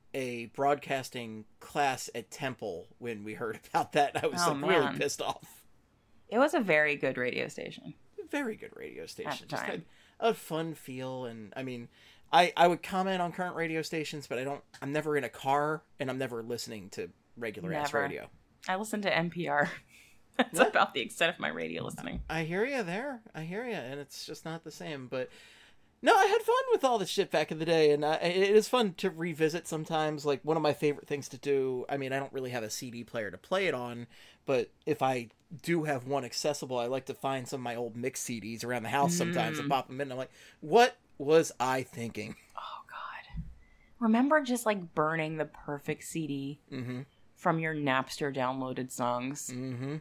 S4: a broadcasting class at Temple when we heard about that. I was
S5: Oh,
S4: like really
S5: man.
S4: pissed off.
S5: It was a very good radio station.
S4: Very good radio station.
S5: the
S4: Just
S5: time.
S4: had a fun feel, and I mean, I I would comment on current radio stations, but I don't. I'm never in a car, and I'm never listening to regular ass
S5: Never.
S4: radio.
S5: I listened to N P R. That's
S4: Yeah.
S5: about the extent of my radio listening.
S4: I hear you there. I hear you, and it's just not the same. But no, I had fun with all this shit back in the day, and I, it is fun to revisit sometimes. Like one of my favorite things to do. I mean, I don't really have a C D player to play it on, but if I do have one accessible, I like to find some of my old mix C Ds around the house sometimes and
S5: Mm.
S4: pop them in. And I'm like, what was I thinking?
S5: Oh, God. Remember just like burning the perfect C D
S4: Mm-hmm.
S5: from your Napster downloaded songs
S4: Mm-hmm.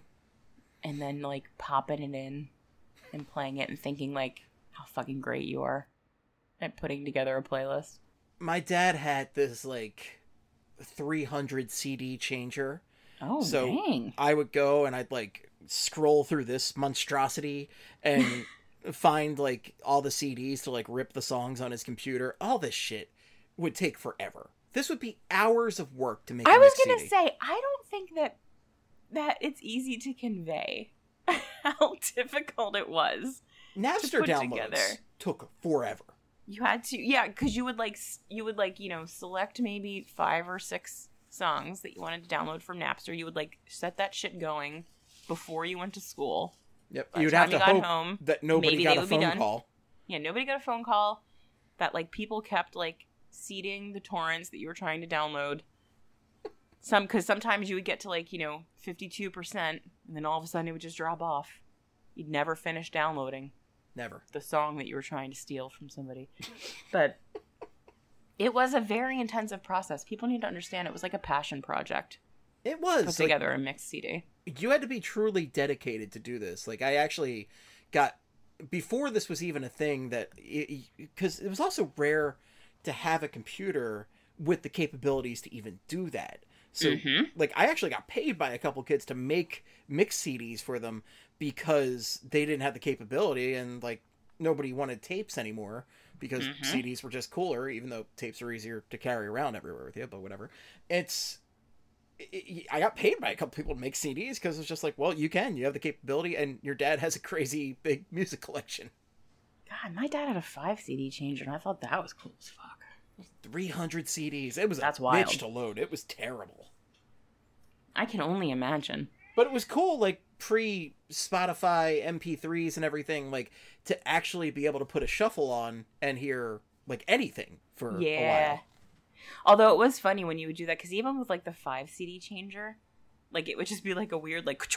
S5: and then like popping it in and playing it and thinking like how fucking great you are at putting together a playlist.
S4: My dad had this like three hundred C D changer.
S5: Oh,
S4: so
S5: dang.
S4: I would go and I'd like scroll through this monstrosity and find like all the C Ds to like rip the songs on his computer. All this shit would take forever. This would be hours of work to make.
S5: I
S4: a
S5: was
S4: mix
S5: gonna
S4: C D.
S5: say, I don't think that that it's easy to convey how difficult it was to
S4: Napster
S5: put
S4: downloads
S5: together.
S4: took forever.
S5: You had to, yeah, because you would like, s- you would like, you know, select maybe five or six songs that you wanted to download from Napster. You would like set that shit going before you went to school,
S4: Yep.
S5: By the
S4: You'd have
S5: time
S4: to
S5: you got
S4: hope
S5: home,
S4: that nobody
S5: maybe
S4: got
S5: they
S4: a
S5: would be
S4: phone
S5: done.
S4: call.
S5: Yeah, nobody got a phone call. That like people kept like seeding the torrents that you were trying to download. Some because sometimes you would get to like you know fifty-two percent, and then all of a sudden it would just drop off. You'd never finish downloading.
S4: Never.
S5: The song that you were trying to steal from somebody. But it was a very intensive process. People need to understand it was like a passion project.
S4: It was.
S5: Put together like, a mixed C D.
S4: You had to be truly dedicated to do this. Like, I actually got... Before this was even a thing that... Because it, it was also rare to have a computer with the capabilities to even do that. So,
S5: mm-hmm.
S4: like, I actually got paid by a couple kids to make mixed C Ds for them because they didn't have the capability and, like, nobody wanted tapes anymore because
S5: mm-hmm.
S4: C Ds were just cooler, even though tapes are easier to carry around everywhere with you, but whatever. It's... It, I got paid by a couple people to make C Ds because it's just like, well, you can. You have the capability, and your dad has a crazy big music collection.
S5: God, my dad had a five C D changer, and I thought that was cool as fuck.
S4: three hundred C Ds. It was
S5: That's
S4: a
S5: wild.
S4: bitch to load. It was terrible.
S5: I can only imagine.
S4: But it was cool, like, pre-Spotify M P threes and everything, like, to actually be able to put a shuffle on and hear, like, anything for
S5: yeah.
S4: a while.
S5: Although it was funny when you would do that, because even with, like, the five C D changer, like, it would just be, like, a weird, like...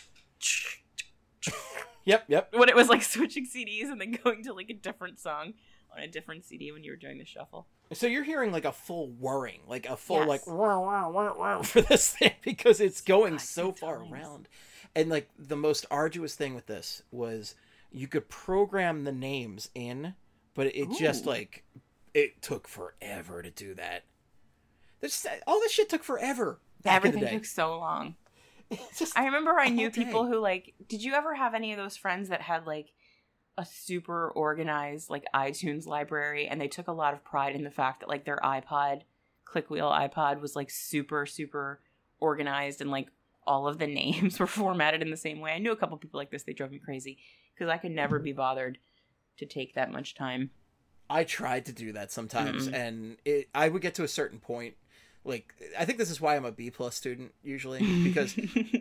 S4: Yep, yep.
S5: When it was, like, switching C Ds and then going to, like, a different song on a different C D when you were doing the shuffle.
S4: So you're hearing, like, a full whirring, like, a full,
S5: yes.
S4: like, wow, wow, wow, wow, for this thing, because it's going
S5: God,
S4: so far times. around. And, like, the most arduous thing with this was you could program the names in, but it Ooh. just, like, it took forever to do that. This, all this shit took forever. Back
S5: Everything
S4: in the day.
S5: took so long.
S4: Just
S5: I remember I knew
S4: day.
S5: people who, like, did you ever have any of those friends that had, like, a super organized, like, iTunes library, and they took a lot of pride in the fact that, like, their iPod, Clickwheel iPod, was, like, super, super organized, and, like, all of the names were formatted in the same way. I knew a couple people like this. They drove me crazy, because I could never be bothered to take that much time.
S4: I tried to do that sometimes,
S5: Mm-mm.
S4: and it, I would get to a certain point. Like, I think this is why I'm a B plus student usually, because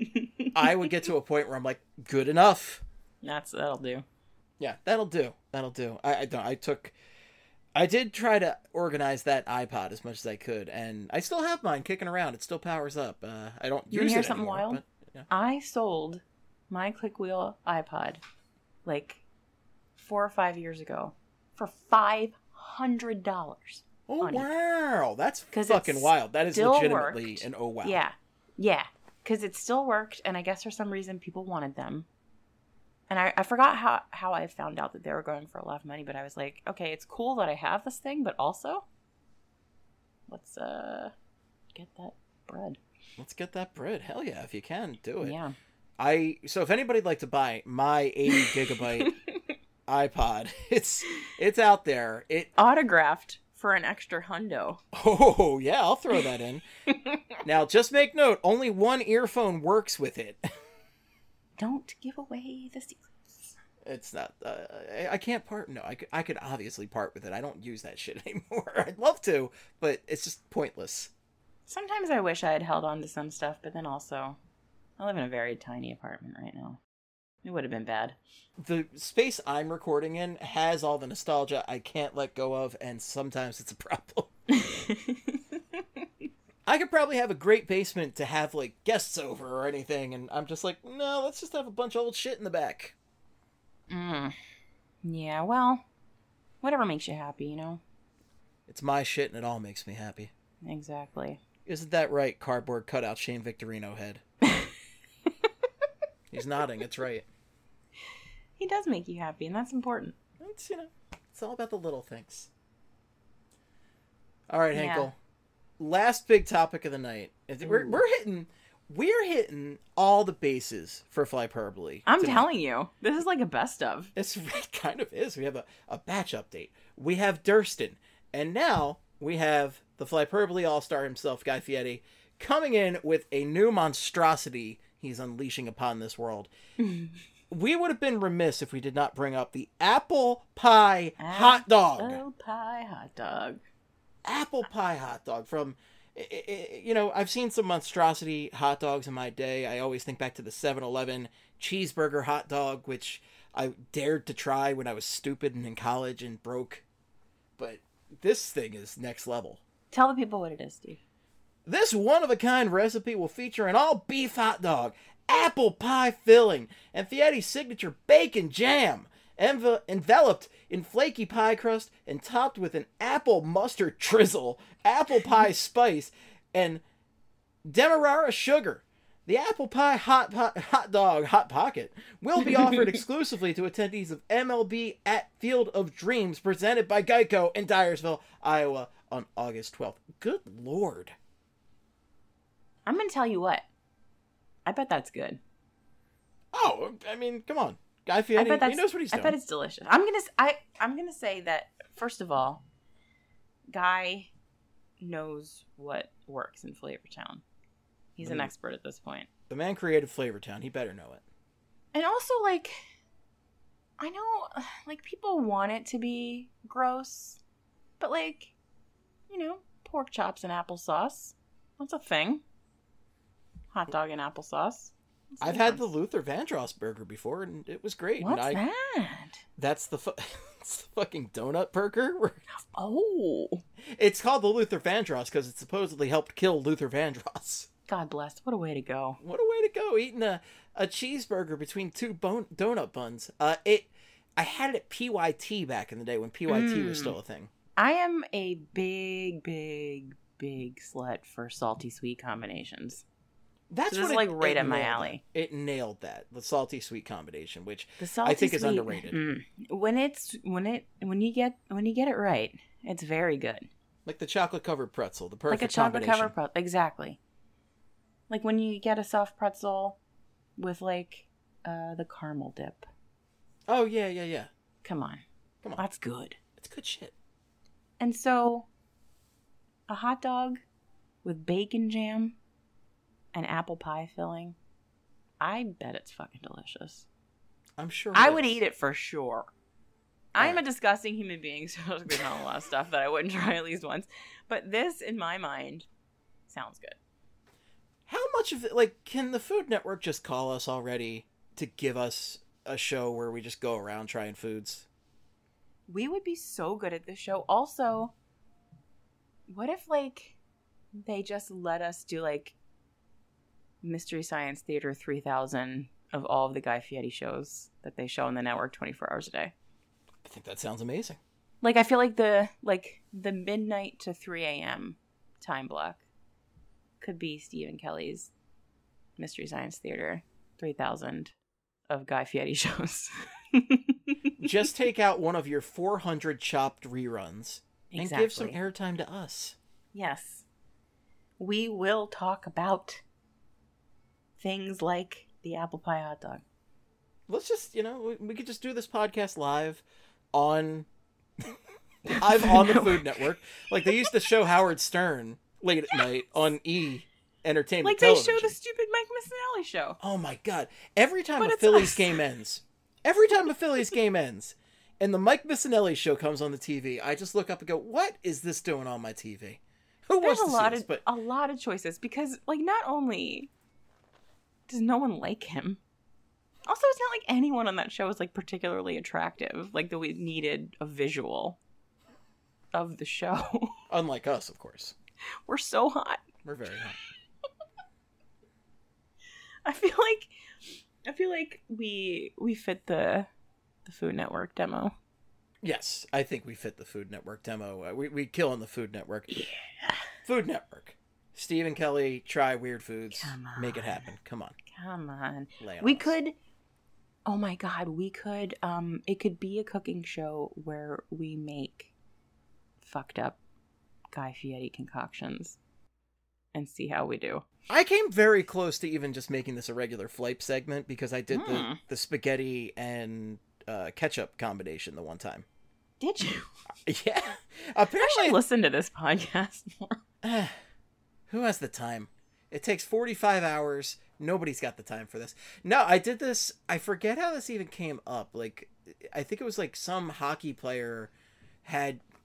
S4: I would get to a point where I'm like, good enough.
S5: That's that'll do.
S4: Yeah, that'll do. That'll do. I I, don't, I took, I did try to organize that iPod as much as I could, and I still have mine kicking around. It still powers up. Uh, I don't
S5: You
S4: use
S5: hear
S4: it
S5: something
S4: anymore,
S5: wild?
S4: But, yeah.
S5: I sold my Clickwheel iPod like four or five years ago for five hundred dollars.
S4: Oh wow, that's
S5: Because
S4: fucking wild. That is
S5: still
S4: legitimately
S5: worked.
S4: an oh wow.
S5: Yeah, yeah, because it still worked, and I guess for some reason people wanted them. And I, I forgot how, how I found out that they were going for a lot of money, but I was like, okay, it's cool that I have this thing, but also, let's uh get that bread.
S4: Let's get that bread. Hell yeah, if you can, do it.
S5: Yeah.
S4: I so if anybody'd like to buy my eighty gigabyte iPod, it's it's out there. It
S5: autographed for an extra hundo.
S4: Oh yeah, I'll throw that in. Now, just make note: only one earphone works with it.
S5: Don't give away the secrets.
S4: It's not. Uh, I, I can't part. No, I could. I could obviously part with it. I don't use that shit anymore. I'd love to, but it's just pointless.
S5: Sometimes I wish I had held on to some stuff, but then also, I live in a very tiny apartment right now. It would have been bad.
S4: The space I'm recording in has all the nostalgia I can't let go of, and sometimes it's a problem. I could probably have a great basement to have, like, guests over or anything, and I'm just like, no, let's just have a bunch of old shit in the back.
S5: Mm. Yeah, well, whatever makes you happy, you know?
S4: It's my shit, and it all makes me happy.
S5: Exactly.
S4: Isn't that right, cardboard cutout Shane Victorino head? He's nodding, it's right.
S5: He does make you happy, and that's important.
S4: It's, you know, it's all about the little things. All right,
S5: Yeah.
S4: Henkel. Last big topic of the night. We're, we're hitting we're hitting all the bases for Flyperbole.
S5: I'm
S4: tonight.
S5: telling you, this is like a best of.
S4: It's, it kind of is. We have a, a batch update. We have Durston. And now we have the Flyperbole All-Star himself, Guy Fieri, coming in with a new monstrosity he's unleashing upon this world. We would have been remiss if we did not bring up the apple pie hot dog.
S5: Apple pie hot dog.
S4: Apple pie hot dog from it, it, you know, I've seen some monstrosity hot dogs in my day. I always think back to the seven eleven cheeseburger hot dog, which I dared to try when I was stupid and in college and broke. But this thing is next level.
S5: Tell the people what it is, Steve.
S4: This one-of-a-kind recipe will feature an all-beef hot dog, apple pie filling, and Fietti's signature bacon jam, enve- enveloped in flaky pie crust and topped with an apple mustard drizzle, apple pie spice, and demerara sugar. The apple pie hot po- hot dog hot pocket will be offered exclusively to attendees of M L B at Field of Dreams, presented by Geico in Dyersville, Iowa, on August twelfth. Good Lord.
S5: I'm going to tell you what. I bet that's good.
S4: Oh, I mean, come on. Guy Fieri, he knows what he's doing.
S5: I bet it's delicious. I'm going to I I'm going to say that, first of all, Guy knows what works in Flavortown. He's mm. an expert at this point.
S4: The man created Flavortown. He better know it.
S5: And also, like, I know, like, people want it to be gross, but, like, you know, pork chops and applesauce. That's a thing. Hot dog and applesauce.
S4: I've had the Luther Vandross burger before, and it was great.
S5: What's
S4: and I,
S5: that?
S4: That's the, fu- it's the fucking donut burger.
S5: Oh.
S4: It's called the Luther Vandross because it supposedly helped kill Luther Vandross.
S5: God bless. What a way to go.
S4: What a way to go. Eating a, a cheeseburger between two bone, donut buns. Uh, it. I had it at P Y T back in the day when P Y T mm. was still a thing.
S5: I am a big, big, big slut for salty sweet combinations.
S4: That's
S5: so
S4: what
S5: is
S4: it,
S5: like right
S4: it
S5: up my alley.
S4: That. It nailed that, the salty sweet combination, which
S5: the
S4: I think
S5: sweet,
S4: is underrated.
S5: Mm, when it's when it when you get when you get it right, it's very good.
S4: Like the chocolate covered pretzel, the perfect
S5: like a chocolate
S4: combination.
S5: covered pretzel, exactly. Like when you get a soft pretzel with like uh, the caramel dip.
S4: Oh yeah, yeah, yeah.
S5: Come on,
S4: come on,
S5: that's good.
S4: It's good shit.
S5: And so, a hot dog with bacon jam and apple pie filling, I bet it's fucking delicious.
S4: I'm sure
S5: I
S4: is.
S5: would eat it for sure.
S4: All
S5: I'm
S4: right.
S5: a disgusting human being, so there's not a lot of stuff that I wouldn't try at least once. But this, in my mind, sounds good.
S4: How much of it, like, can the Food Network just call us already to give us a show where we just go around trying foods?
S5: We would be so good at this show. Also, what if, like, they just let us do, like, Mystery Science Theater three thousand of all of the Guy Fieri shows that they show on the network twenty-four hours a day?
S4: I think that sounds amazing.
S5: Like, I feel like the, like, the midnight to three a.m. time block could be Stephen Kelly's Mystery Science Theater three thousand of Guy Fieri shows.
S4: Just take out one of your four hundred chopped reruns and
S5: exactly.
S4: give some airtime to us.
S5: Yes. We will talk about things like the apple pie hot dog.
S4: Let's just, you know, we, we could just do this podcast live on live on the Food Network. Like they used to show Howard Stern late at night on E! Entertainment
S5: Like
S4: television.
S5: they show the stupid Mike Missinelli show.
S4: Oh my god. Every time
S5: But
S4: a
S5: it's
S4: Phillies
S5: us.
S4: game ends, every time a Phillies game ends, and the Mike Missinelli show comes on the T V, I just look up and go, what is this doing on my T V? Who
S5: There's
S4: wants
S5: a
S4: to
S5: lot
S4: see this?
S5: of
S4: But
S5: a lot of choices because, like, not only does no one like him, also it's not like anyone on that show is like particularly attractive. Like that we needed a visual of the show.
S4: unlike us, of course.
S5: We're so hot.
S4: We're very hot.
S5: I feel like I feel like we we fit the the Food Network demo.
S4: Yes, I think we fit the Food Network demo. Uh, we we kill on the Food Network.
S5: Yeah.
S4: Food Network. Stephen Kelly, try weird foods.
S5: Come on.
S4: Make it happen. Come on.
S5: Come on.
S4: Lay on
S5: We
S4: us.
S5: could Oh my god, we could um it could be a cooking show where we make fucked up Guy Fieri concoctions and see how we do.
S4: I came very close to even just making this a regular Flipe segment because I did the,
S5: Hmm.
S4: the spaghetti and uh, ketchup combination the one time.
S5: Did you?
S4: Yeah.
S5: I
S4: Apparently,
S5: should listen to this podcast more.
S4: who has the time? It takes forty-five hours. Nobody's got the time for this. No, I did this. I forget how this even came up. Like, I think it was like some hockey player had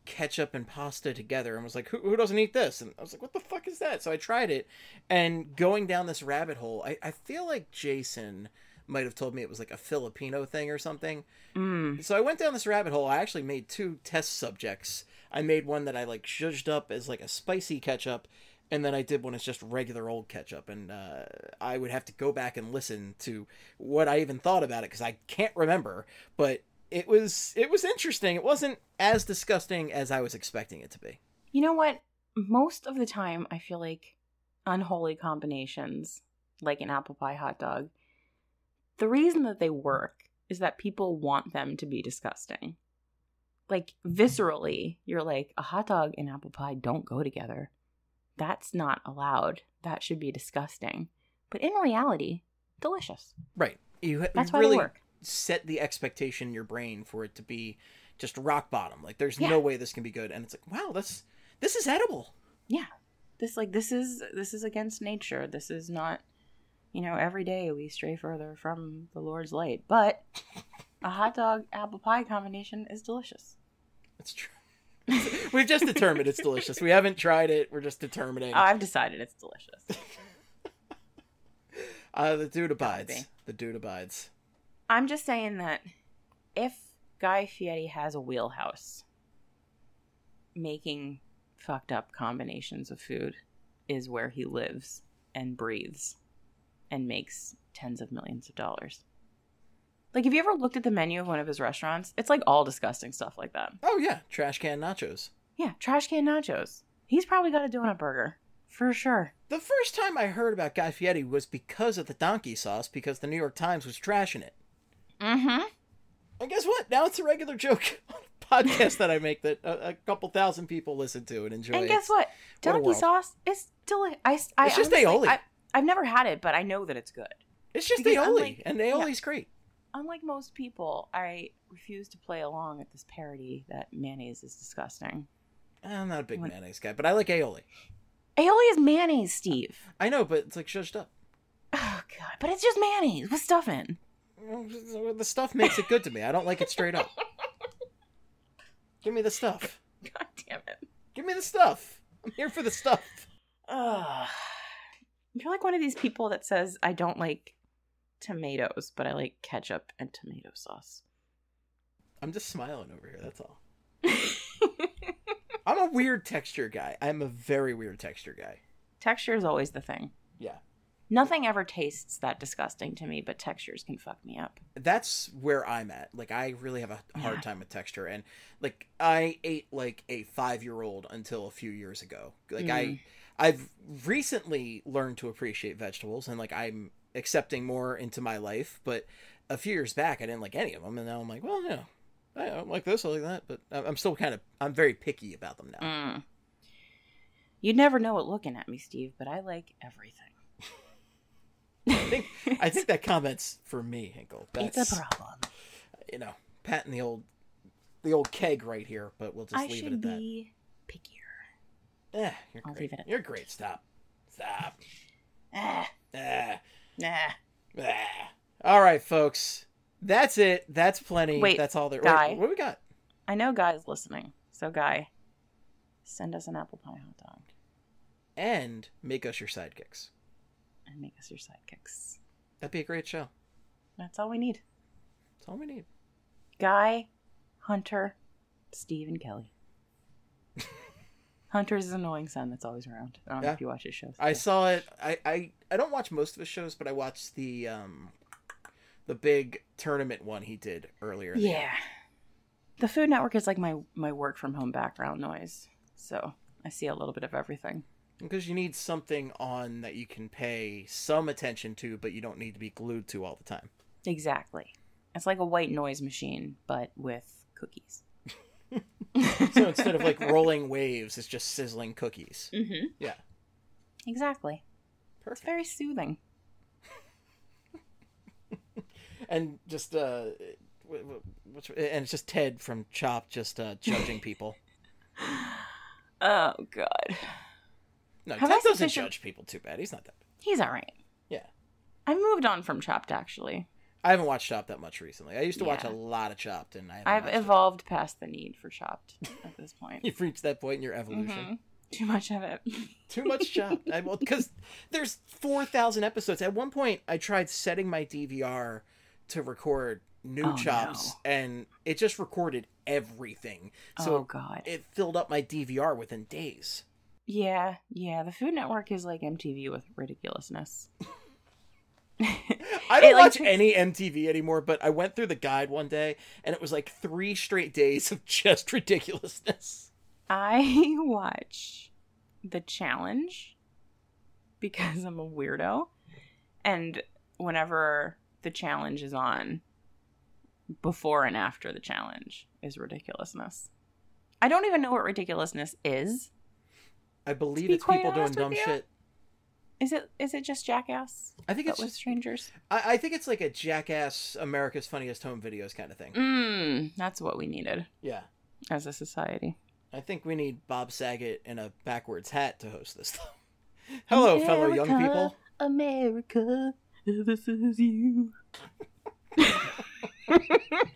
S4: ketchup and pasta together and was like, who, who doesn't eat this? And I was like, what the fuck is that? So I tried it, and going down this rabbit hole, I, I feel like Jason might have told me it was like a Filipino thing or something.
S5: Mm.
S4: So I went down this rabbit hole. I actually made two test subjects. I made one that I like zhuzhed up as like a spicy ketchup, and then I did one as just regular old ketchup. And uh, I would have to go back and listen to what I even thought about it, because I can't remember. But it was it was interesting. It wasn't as disgusting as I was expecting it to be.
S5: You know what? Most of the time, I feel like unholy combinations, like an apple pie hot dog, the reason that they work is that people want them to be disgusting. Like, viscerally, you're like, a hot dog and apple pie don't go together. That's not allowed. That should be disgusting. But in reality, delicious.
S4: Right. You,
S5: That's
S4: you
S5: why
S4: really
S5: they work.
S4: set the expectation in your brain for it to be just rock bottom. Like, there's
S5: Yeah.
S4: no way this can be good. And it's like, wow, this this is edible.
S5: Yeah. This, like, this is, this is against nature. This is not, you know, every day we stray further from the Lord's light. But a hot dog apple pie combination is delicious.
S4: It's true. We've just determined it's delicious. We haven't tried it. We're just determining.
S5: Oh, I've decided it's delicious.
S4: uh, the dude abides. The dude abides.
S5: I'm just saying that if Guy Fieri has a wheelhouse, making fucked up combinations of food is where he lives and breathes and makes tens of millions of dollars. Like, have you ever looked at the menu of one of his restaurants? It's like all disgusting stuff like that.
S4: Oh, yeah. Trash can nachos.
S5: Yeah, trash can nachos. He's probably got a donut burger. For sure.
S4: The first time I heard about Guy Fieri was because of the donkey sauce, because the New York Times was trashing it.
S5: Mm-hmm.
S4: And guess what? Now it's a regular joke on a podcast that I make that a, a couple thousand people listen to and enjoy.
S5: And guess
S4: It's,
S5: what?
S4: what a
S5: Donkey
S4: world.
S5: sauce is delicious. I, I,
S4: It's just
S5: honestly,
S4: aioli.
S5: I, I've never had it, but I know that it's good.
S4: It's just
S5: Because
S4: aioli,
S5: unlike-
S4: and aioli's
S5: yeah.
S4: great.
S5: Unlike most people, I refuse to play along with this parody that mayonnaise is disgusting.
S4: I'm not a big
S5: When-
S4: mayonnaise guy, but I like aioli.
S5: Aioli is mayonnaise, Steve.
S4: I know, but it's like shushed up.
S5: Oh, God. But it's just mayonnaise with stuff in.
S4: The stuff makes it good to me. I don't like it straight up. Give me the stuff.
S5: God damn it.
S4: Give me the stuff. I'm here for the stuff.
S5: Ugh. You're like one of these people that says, I don't like tomatoes, but I like ketchup and tomato sauce.
S4: I'm just smiling over here, that's all. I'm a weird texture guy. I'm a very weird texture guy.
S5: Texture is always the thing.
S4: Yeah.
S5: Nothing ever tastes that disgusting to me, but textures can fuck me up.
S4: That's where I'm at. Like, I really have a hard
S5: Yeah.
S4: time with texture. And, like, I ate, like, a five-year-old until a few years ago. Like,
S5: Mm.
S4: I, I've recently learned to appreciate vegetables, and, like, I'm accepting more into my life. But a few years back, I didn't like any of them. And now I'm like, well, yeah, I don't like this, I like that. But I'm still kind of, I'm very picky about them now.
S5: Mm. You'd never know it looking at me, Steve, but I like everything.
S4: I think I think that comment's for me, Hinkle. That's,
S5: It's a problem.
S4: You know, patting the old the old keg right here, but we'll just
S5: I
S4: leave
S5: should
S4: it at that.
S5: be pickier.
S4: Eh, you're
S5: I'll
S4: great.
S5: leave it at
S4: You're great. Stop. Stop.
S5: Ah,
S4: Ah.
S5: nah.
S4: Ah. All right, folks. That's it. That's plenty.
S5: Wait,
S4: That's all there.
S5: Guy.
S4: Wait, what do we got?
S5: I know Guy's listening. So, Guy, send us an apple pie hot dog
S4: And make us your sidekicks.
S5: and make us your sidekicks.
S4: That'd be a great show.
S5: That's all we need.
S4: That's all we need.
S5: Guy, Hunter, Steve, and Kelly. Hunter's his annoying son that's always around. I don't know
S4: Yeah.
S5: if you watch his shows.
S4: I saw it. I, I, I don't watch most of his shows, but I watched the um the big tournament one he did earlier. in the year.
S5: Yeah. The Food Network is like my, my work from home background noise. So I see a little bit of everything.
S4: Because you need something on that you can pay some attention to, but you don't need to be glued to all the time.
S5: Exactly. It's like a white noise machine, but with cookies.
S4: So instead of like rolling waves, it's just sizzling cookies.
S5: Mm-hmm.
S4: Yeah.
S5: Exactly.
S4: Perfect.
S5: It's very soothing.
S4: And just, uh, wh- wh- what's, and it's just Ted from Chopped just uh, judging people.
S5: Oh, God.
S4: No,
S5: Have
S4: Ted
S5: I
S4: doesn't
S5: sufficient-
S4: judge people too bad. He's not that bad.
S5: He's all right.
S4: Yeah.
S5: I moved on from Chopped, actually.
S4: I haven't watched Chopped that much recently. I used to
S5: Yeah.
S4: watch a lot of Chopped, and I haven't
S5: I've
S4: watched it.
S5: evolved past the need for Chopped at this point.
S4: You've reached that point in your evolution.
S5: Mhm. Too much of it.
S4: Too much Chopped. I, well, because there's four thousand episodes. At one point, I tried setting my D V R to record new
S5: Oh,
S4: Chops,
S5: no.
S4: and it just recorded everything. So
S5: Oh, God.
S4: it filled up my D V R within days.
S5: Yeah, yeah. The Food Network is like M T V with ridiculousness.
S4: I don't
S5: It, like,
S4: watch
S5: takes-
S4: any M T V anymore, but I went through the guide one day, and it was like three straight days of just ridiculousness.
S5: I watch The Challenge because I'm a weirdo. And whenever The Challenge is on, before and after The Challenge is ridiculousness. I don't even know what ridiculousness is.
S4: I believe
S5: be
S4: it's
S5: quite
S4: people doing
S5: honest with
S4: dumb
S5: you.
S4: shit.
S5: Is it is it just Jackass?
S4: I think
S5: but
S4: it's
S5: with
S4: just-
S5: strangers.
S4: I, I think it's like a Jackass America's Funniest Home Videos kind of thing.
S5: Mm, that's what we needed
S4: Yeah.
S5: as a society.
S4: I think we need Bob Saget in a backwards hat to host this though. Hello, fellow young people.
S5: America, this is you. Have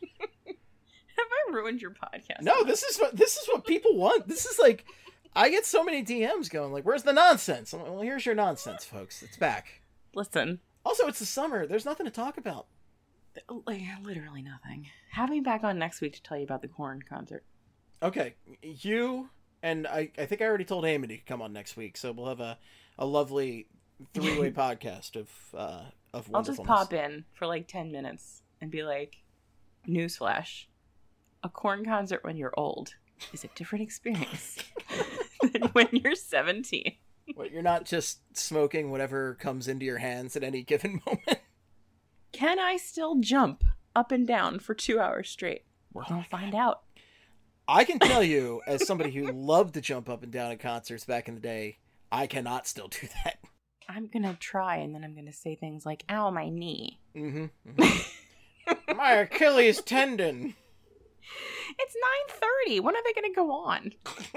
S5: I ruined your podcast?
S4: No, this is what this is what people want. This is like, I get so many D Ms going like, "Where's the nonsense?" I'm like, well, here's your nonsense, folks. It's back.
S5: Listen.
S4: Also, it's the summer. There's nothing to talk about.
S5: Like, literally nothing. Have me back on next week to tell you about the Korn concert.
S4: Okay, you and I. I think I already told Amy to come on next week, so we'll have a a lovely three way podcast of uh of
S5: I'll just
S4: wonderfulness.
S5: pop in for like ten minutes and be like, newsflash, a Korn concert when you're old is a different experience than when you're seventeen.
S4: What, you're not just smoking whatever comes into your hands at any given moment.
S5: Can I still jump up and down for two hours straight? We're going to find out.
S4: I can tell you, as somebody who loved to jump up and down at concerts back in the day, I cannot still do that.
S5: I'm going to try, and then I'm going to say things like, ow, my knee.
S4: Mm-hmm. mm-hmm. My Achilles tendon.
S5: It's nine thirty. When are they going to go on?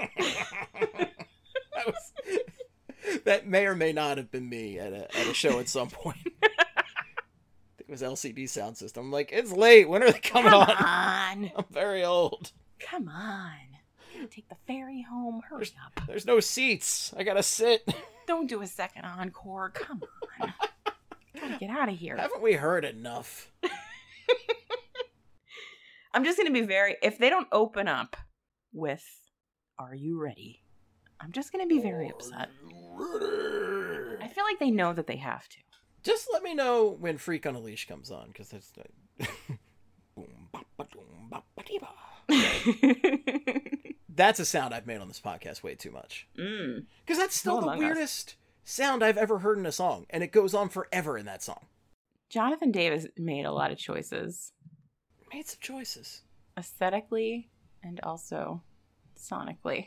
S4: That was, that may or may not have been me at a, at a show at some point. It was L C D Sound System. I'm like, it's late. When are they coming
S5: Come
S4: on?
S5: on.
S4: I'm very old.
S5: Come on. Take the ferry home. Hurry
S4: There's,
S5: up.
S4: there's no seats. I gotta sit.
S5: Don't do a second encore. Come on. Gotta get out of here.
S4: Haven't we heard enough?
S5: I'm just going to be very... If they don't open up with, are you ready? I'm just going to be very upset. I feel like they know that they have to.
S4: Just let me know when Freak on a Leash comes on, because it's... Boom, bop, ba, doom, bop, ba, dee, ba. That's a sound I've made on this podcast way too much.
S5: Mm.
S4: Because that's still
S5: No
S4: the
S5: Among Us.
S4: weirdest sound I've ever heard in a song, and it goes on forever in that song.
S5: Jonathan Davis made a lot of choices.
S4: Made some choices.
S5: Aesthetically and also sonically.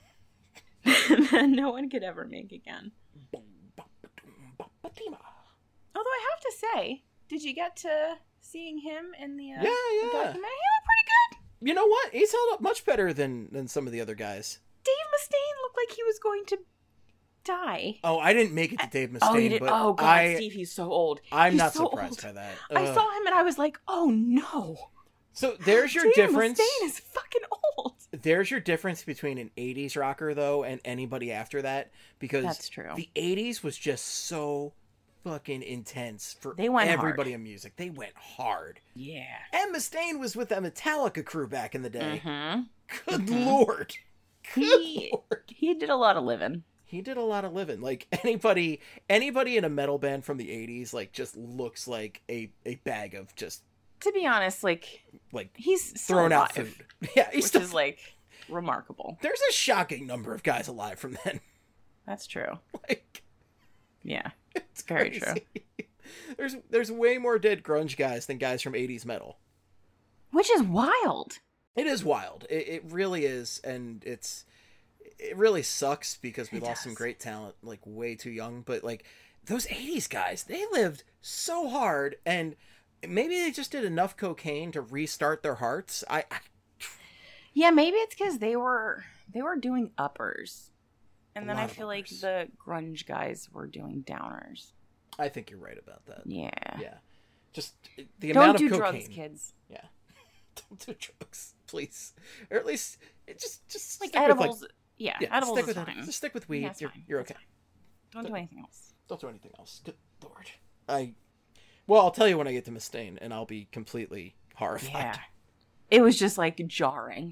S5: That no one could ever make again.
S4: Boom, bop, ba, doom, bop, ba, dee, ba.
S5: Although I have to say, did you get to seeing him in the, uh,
S4: Yeah,
S5: the
S4: yeah.
S5: documentary? He looked pretty good.
S4: You know what? He's held up much better than, than some of the other guys.
S5: Dave Mustaine looked like he was going to die.
S4: Oh, I didn't make it to Dave Mustaine,
S5: oh, he did.
S4: but
S5: Oh, God,
S4: I,
S5: Steve, he's so old.
S4: I'm
S5: He's
S4: not
S5: so
S4: surprised
S5: old.
S4: by that.
S5: I
S4: Ugh.
S5: saw him and I was like, oh, no.
S4: So there's your
S5: Dave
S4: difference.
S5: Mustaine is fucking old.
S4: There's your difference between an eighties rocker, though, and anybody after that. Because
S5: That's true.
S4: The eighties was just so fucking intense for
S5: They went
S4: everybody in music. They went hard.
S5: Yeah.
S4: And Mustaine was with that Metallica crew back in the day.
S5: Mm-hmm.
S4: Good
S5: Mhm.
S4: lord. Good
S5: He,
S4: lord.
S5: he did a lot of living.
S4: He did a lot of living. Like anybody anybody in a metal band from the eighties like just looks like a, a bag of just
S5: To be honest, like,
S4: like
S5: he's still
S4: thrown out
S5: alive,
S4: food. Yeah, he's
S5: which
S4: still
S5: is, like, remarkable.
S4: There's a shocking number of guys alive from then.
S5: That's true.
S4: Like
S5: Yeah.
S4: it's
S5: Very
S4: crazy.
S5: true.
S4: There's there's way more dead grunge guys than guys from eighties metal.
S5: Which is wild.
S4: It is wild. It, it really is, and it's it really sucks because we
S5: It
S4: lost some
S5: does.
S4: great talent like way too young. But like those eighties guys, they lived so hard, and maybe they just did enough cocaine to restart their hearts. I, I
S5: Yeah, maybe it's because they were they were doing uppers, and
S4: A
S5: then
S4: lot
S5: I
S4: of
S5: feel like
S4: uppers.
S5: the grunge guys were doing downers.
S4: I think you're right about that.
S5: Yeah.
S4: Yeah. Just the
S5: Don't
S4: amount
S5: do
S4: of cocaine.
S5: drugs, kids.
S4: Yeah. Don't do drugs, please. Or at least it just just
S5: Like
S4: stick
S5: edibles.
S4: With, like,
S5: yeah,
S4: yeah,
S5: edibles
S4: stick
S5: is
S4: with
S5: fine.
S4: Just stick with weed.
S5: Yeah, it's
S4: you're,
S5: fine.
S4: you're
S5: It's
S4: okay.
S5: fine. Don't do anything else.
S4: Don't do anything else. Good Lord. I. Well, I'll tell you when I get to Mustaine, and I'll be completely horrified.
S5: Yeah. It was just like jarring.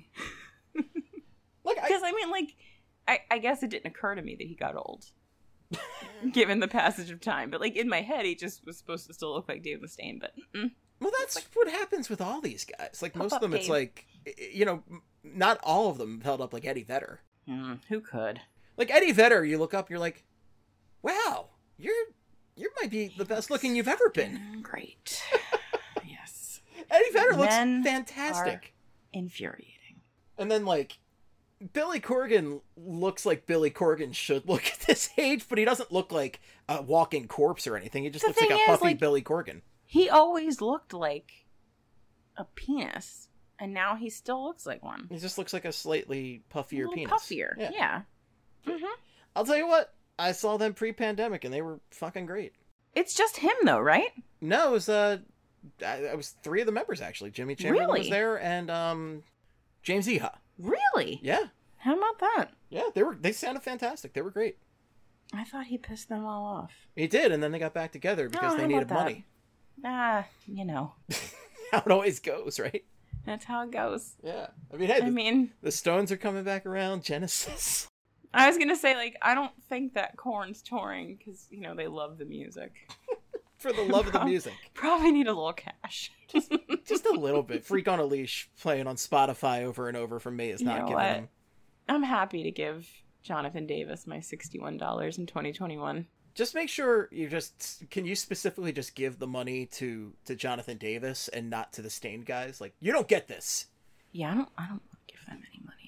S4: Like,
S5: because I, I mean, like, I, I guess it didn't occur to me that he got old, given the passage of time. But like in my head, he just was supposed to still look like Dave Mustaine. But mm.
S4: well, that's like, what happens with all these guys. Like most of them,
S5: Dave.
S4: it's like, you know, not all of them held up like Eddie Vedder.
S5: Mm, who could?
S4: Like Eddie Vedder, you look up, you're like, wow, you're you might be the best looking you've ever been.
S5: Great. Yes.
S4: Eddie Vedder looks
S5: Men
S4: fantastic.
S5: Are infuriating.
S4: And then like Billy Corgan looks like Billy Corgan should look at this age, but he doesn't look like a walking corpse or anything. He just
S5: The
S4: looks like a
S5: thing is,
S4: puffy
S5: like,
S4: Billy Corgan.
S5: He always looked like a penis, and now he still looks like one.
S4: He just looks like a slightly puffier
S5: a little
S4: penis.
S5: puffier. Yeah. yeah. Mm-hmm.
S4: I'll tell you what, I saw them pre-pandemic and they were fucking great.
S5: It's just him though, right?
S4: No, it was uh, I, I was three of the members actually. Jimmy Chamberlain
S5: Really?
S4: was there, and um, James Iha.
S5: Really?
S4: Yeah.
S5: How about that?
S4: Yeah, they were. They sounded fantastic. They were great.
S5: I thought he pissed them all off.
S4: He did, and then they got back together because
S5: Oh,
S4: they
S5: how
S4: needed
S5: about that?
S4: money.
S5: Ah, you know.
S4: How it always goes, right?
S5: That's how it goes.
S4: Yeah. I mean, hey,
S5: I
S4: the,
S5: mean,
S4: the Stones are coming back around. Genesis.
S5: I was gonna say, like, I don't think that Korn's touring because you know they love the music.
S4: For the love of the music.
S5: Probably need a little cash.
S4: just, just a little bit. Freak on a Leash playing on Spotify over and over from me is
S5: You
S4: not
S5: know
S4: giving
S5: what?
S4: him.
S5: I'm happy to give Jonathan Davis my sixty-one dollars in twenty twenty-one.
S4: Just make sure you just can you specifically just give the money to to Jonathan Davis and not to the Stained guys. Like, you don't get this.
S5: Yeah, I don't. I don't give them any money.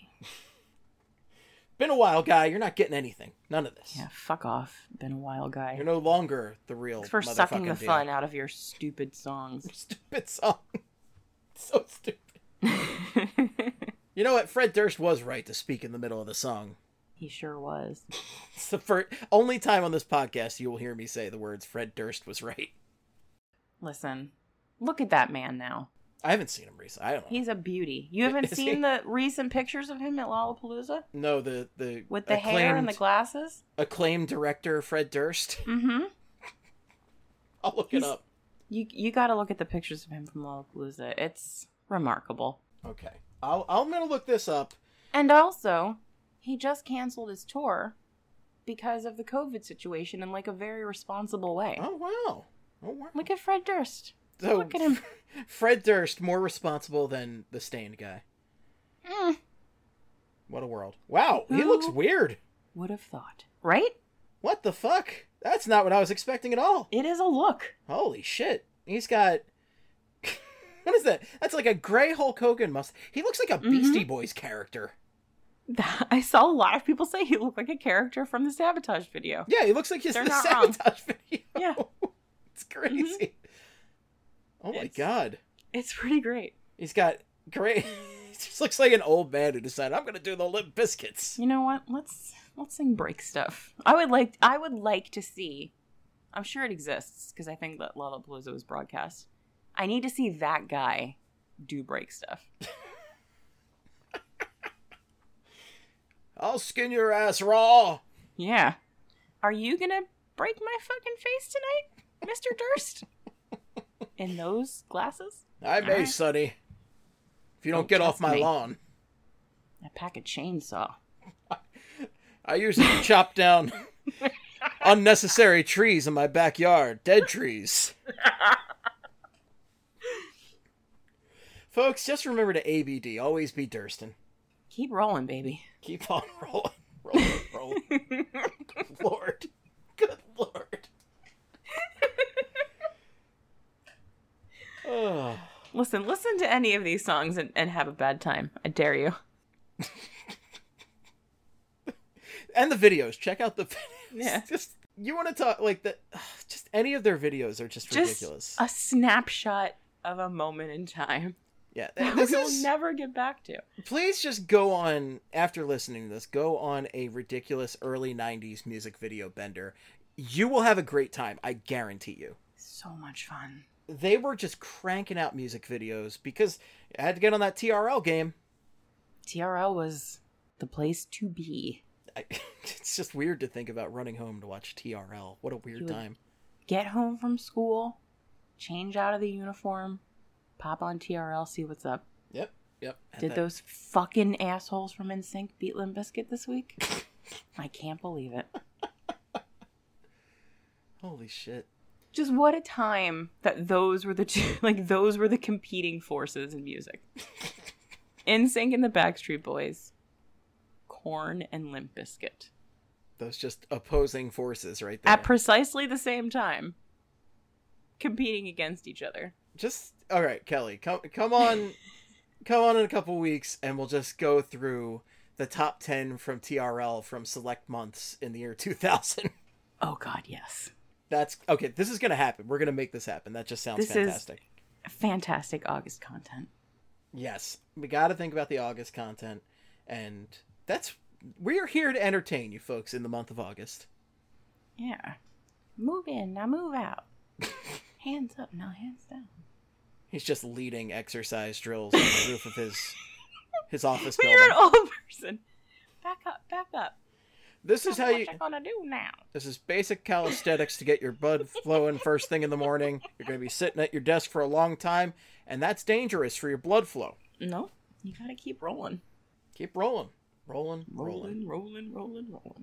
S4: Been a while, guy. You're not getting anything. None of this.
S5: Yeah, fuck off. Been a while, guy.
S4: You're no longer the real.
S5: Thanks for sucking the
S4: motherfucking
S5: fun
S4: deal.
S5: out of your stupid songs.
S4: Stupid song. So stupid. You know what? Fred Durst was right to speak in the middle of the song.
S5: He sure was.
S4: It's the first, only time on this podcast you will hear me say the words Fred Durst was right.
S5: Listen, look at that man now.
S4: I haven't seen him recently. I don't know.
S5: He's a beauty. You haven't
S4: Is
S5: seen
S4: he?
S5: the recent pictures of him at Lollapalooza?
S4: No, the the
S5: With the hair and the glasses?
S4: acclaimed director Fred Durst.
S5: Mm-hmm.
S4: I'll look it up.
S5: You you got to look at the pictures of him from Lollapalooza. It's remarkable.
S4: Okay, I'll I'm gonna look this up.
S5: And also, he just canceled his tour because of the COVID situation in like a very responsible way.
S4: Oh wow! Oh wow!
S5: Look at Fred Durst.
S4: So,
S5: Look at him.
S4: Fred Durst more responsible than the Stained guy.
S5: Mm.
S4: What a world! Wow, he
S5: Who
S4: looks weird.
S5: Would have thought, right?
S4: What the fuck? That's not what I was expecting at all.
S5: It is a look.
S4: Holy shit! He's got. What is that? That's like a gray Hulk Hogan must. He looks like a Beastie Boys character.
S5: I saw a lot of people say he looked like a character from the Sabotage video.
S4: Yeah, he looks like his
S5: They're
S4: the
S5: not wrong.
S4: Sabotage video.
S5: Yeah.
S4: It's crazy. Oh my
S5: It's-
S4: god.
S5: It's pretty great.
S4: He's got great. He just looks like an old man who decided I'm gonna do the Limp Biscuits.
S5: You know what? Let's let's sing break stuff. I would like I would like to see. I'm sure it exists because I think that Lollapalooza was broadcast. I need to see that guy do break stuff.
S4: I'll skin your ass raw.
S5: Yeah. Are you gonna break my fucking face tonight, Mister Durst? In those glasses?
S4: I may,
S5: Alright.
S4: Sonny. If you don't,
S5: Don't
S4: get off
S5: test
S4: my
S5: me.
S4: lawn.
S5: I pack a chainsaw.
S4: I usually chop down unnecessary trees in my backyard. Dead trees. Folks, just remember to A B D. Always be Durstin.
S5: Keep rolling, baby.
S4: Keep on rolling. Rolling, rolling. Good Lord. Good Lord. Oh.
S5: Listen, listen to any of these songs and, and have a bad time. I dare you.
S4: And the videos. Check out the videos.
S5: Yeah.
S4: Just, you want to talk, like, the, just any of their videos are just,
S5: Just
S4: ridiculous.
S5: a snapshot of a moment in time
S4: Yeah.
S5: that
S4: This
S5: we'll
S4: is,
S5: never get back to.
S4: please just go on, after listening to this, go on a ridiculous early nineties music video bender. You will have a great time. I guarantee you.
S5: So much fun.
S4: they were just cranking out music videos because I had to get on that T R L game.
S5: T R L was the place to be.
S4: I, it's just weird to think about running home to watch T R L. What a weird time.
S5: Get home from school, change out of the uniform, pop on T R L, see what's up.
S4: Yep, yep.
S5: Did that. Those fucking assholes from N Sync beat Limp Bizkit this week? I can't believe it.
S4: Holy shit.
S5: Just what a time that those were the two, like those were the competing forces in music. N Sync and the Backstreet Boys, Korn and Limp Bizkit.
S4: Those just opposing forces right there.
S5: At precisely the same time, competing against each other.
S4: Just all right, Kelly, come come on, come on in a couple weeks, and we'll just go through the top ten from T R L from select months in the year two thousand.
S5: Oh God, yes.
S4: That's okay. This is gonna happen. We're gonna make this happen. That just sounds
S5: this
S4: fantastic.
S5: Is fantastic August content.
S4: Yes, we got to think about the August content, and that's we're here to entertain you folks in the month of August.
S5: Yeah, move in now, move out. Hands up now, hands down.
S4: He's just leading exercise drills on the roof of his his office building.
S5: You're an old person. Back up, back up.
S4: This is how you.
S5: What you gonna do now?
S4: This is basic calisthenics to get your blood flowing first thing in the morning. You're gonna be sitting at your desk for a long time, and that's dangerous for your blood flow.
S5: No, you gotta keep rolling.
S4: Keep rolling, rolling,
S5: rolling, rolling, rolling, rolling.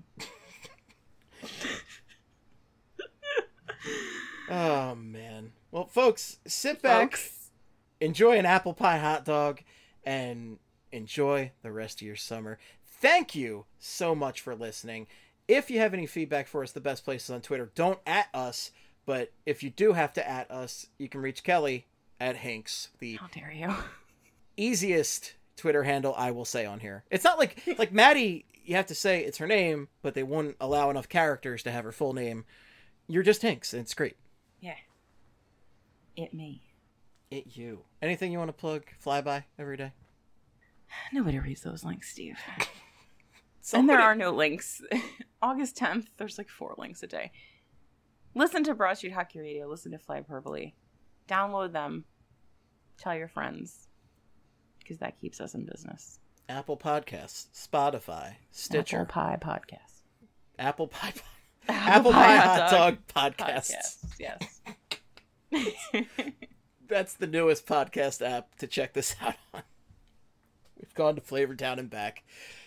S4: Oh man. Well, folks, sit back, folks. Enjoy an apple pie hot dog, and enjoy the rest of your summer. Thank you so much for listening. If you have any feedback for us, the best place is on Twitter. Don't at us, but if you do have to at us, you can reach Kelly at Hinks. The
S5: How dare you?
S4: Easiest Twitter handle I will say on here. It's not like like Maddie, you have to say it's her name, but they wouldn't allow enough characters to have her full name. You're just Hinks, and it's great.
S5: Yeah. It me.
S4: It you. Anything you want to plug, fly by every day?
S5: Nobody reads those links, Steve.
S4: Somebody...
S5: And there are no links. August tenth, there's like four links a day. Listen to Broad Street Hockey Radio. Listen to Fly Hyperbole. Download them. Tell your friends. Because that keeps us in business.
S4: Apple Podcasts, Spotify, Stitcher.
S5: Apple Pie Podcast.
S4: Apple Pie Podcast.
S5: Apple,
S4: Apple
S5: Pie,
S4: Pie
S5: Hot
S4: Hot
S5: Dog,
S4: Dog Podcasts.
S5: Podcasts. Yes.
S4: That's the newest podcast app to check this out on. We've gone to Flavortown and back.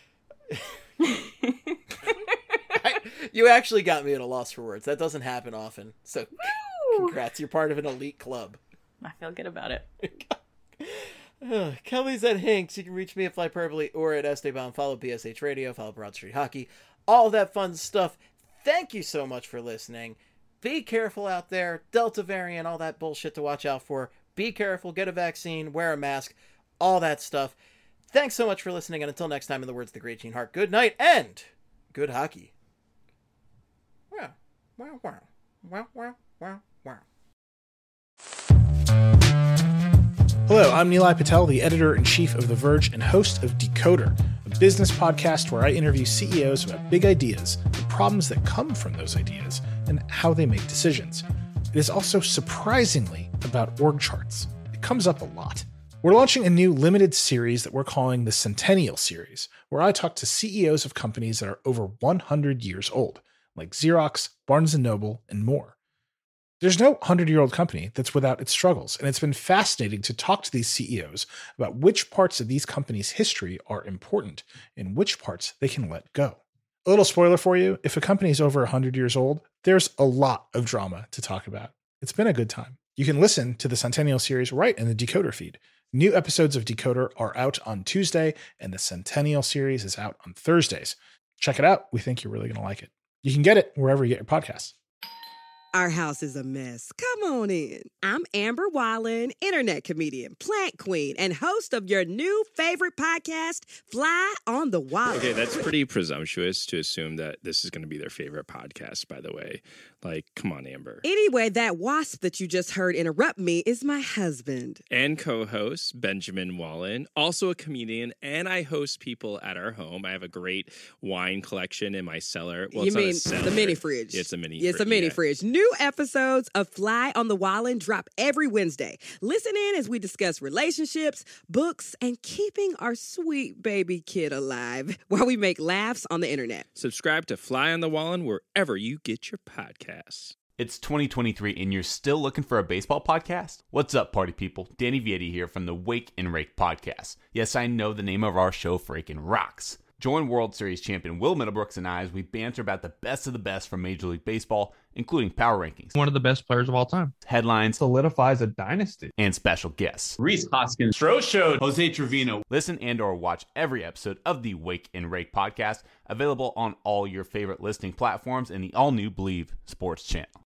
S4: I, you actually got me at a loss for words. That doesn't happen often. So Woo! Congrats. You're part of an elite club.
S5: I feel good about it.
S4: uh, Kelly's at Hinks. You can reach me at Flyperbole or at Esteban. Follow B S H Radio. Follow Broad Street Hockey. All that fun stuff. Thank you so much for listening. Be careful out there. Delta variant, all that bullshit to watch out for. Be careful. Get a vaccine. Wear a mask. All that stuff. Thanks so much for listening, and until next time, in the words of the great Gene Hart, good night and good hockey. Wow, wow, wow, wow, wow, wow, wow.
S13: Hello, I'm Nilay Patel, the editor-in-chief of The Verge and host of Decoder, a business podcast where I interview C E Os about big ideas, the problems that come from those ideas, and how they make decisions. It is also surprisingly about org charts. It comes up a lot. We're launching a new limited series that we're calling the Centennial Series, where I talk to C E Os of companies that are over one hundred years old, like Xerox, Barnes and Noble, and more. There's no hundred-year-old company that's without its struggles, and it's been fascinating to talk to these C E Os about which parts of these companies' history are important and which parts they can let go. A little spoiler for you, if a company is over one hundred years old, there's a lot of drama to talk about. It's been a good time. You can listen to the Centennial Series right in the Decoder feed. New episodes of Decoder are out on Tuesday, and the Centennial Series is out on Thursdays. Check it out. We think you're really going to like it. You can get it wherever you get your podcasts.
S14: Our house is a mess. Come on in. I'm Amber Wallen, internet comedian, plant queen, and host of your new favorite podcast, Fly on the Wall.
S15: Okay, that's pretty presumptuous to assume that this is going to be their favorite podcast, by the way. Like, come on, Amber.
S14: Anyway, that wasp that you just heard interrupt me is my husband.
S15: And co-host, Benjamin Wallen, also a comedian, and I host people at our home. I have a great wine collection in my cellar. Well,
S14: you
S15: it's
S14: mean
S15: not a cellar.
S14: The mini fridge?
S15: It's a mini
S14: It's
S15: fridge.
S14: a mini
S15: yeah.
S14: fridge. New episodes of Fly Fly on the Wallin drop every Wednesday. Listen in as we discuss relationships, books, and keeping our sweet baby kid alive while we make laughs on the internet.
S15: Subscribe to Fly on the Wallin wherever you get your podcasts.
S16: It's twenty twenty-three and you're still looking for a baseball podcast? What's up, party people? Danny Vietti here from the Wake and Rake podcast. Yes, I know the name of our show freaking rocks. Join World Series champion Will Middlebrooks and I as we banter about the best of the best from Major League Baseball, including power rankings,
S17: one of the best players of all time,
S16: headlines,
S17: solidifies a dynasty,
S16: and special guests.
S18: Rhys Hoskins, Stro Show, Jose Trevino.
S16: Listen and or watch every episode of the Wake and Rake podcast, available on all your favorite listening platforms and the all-new Believe Sports channel.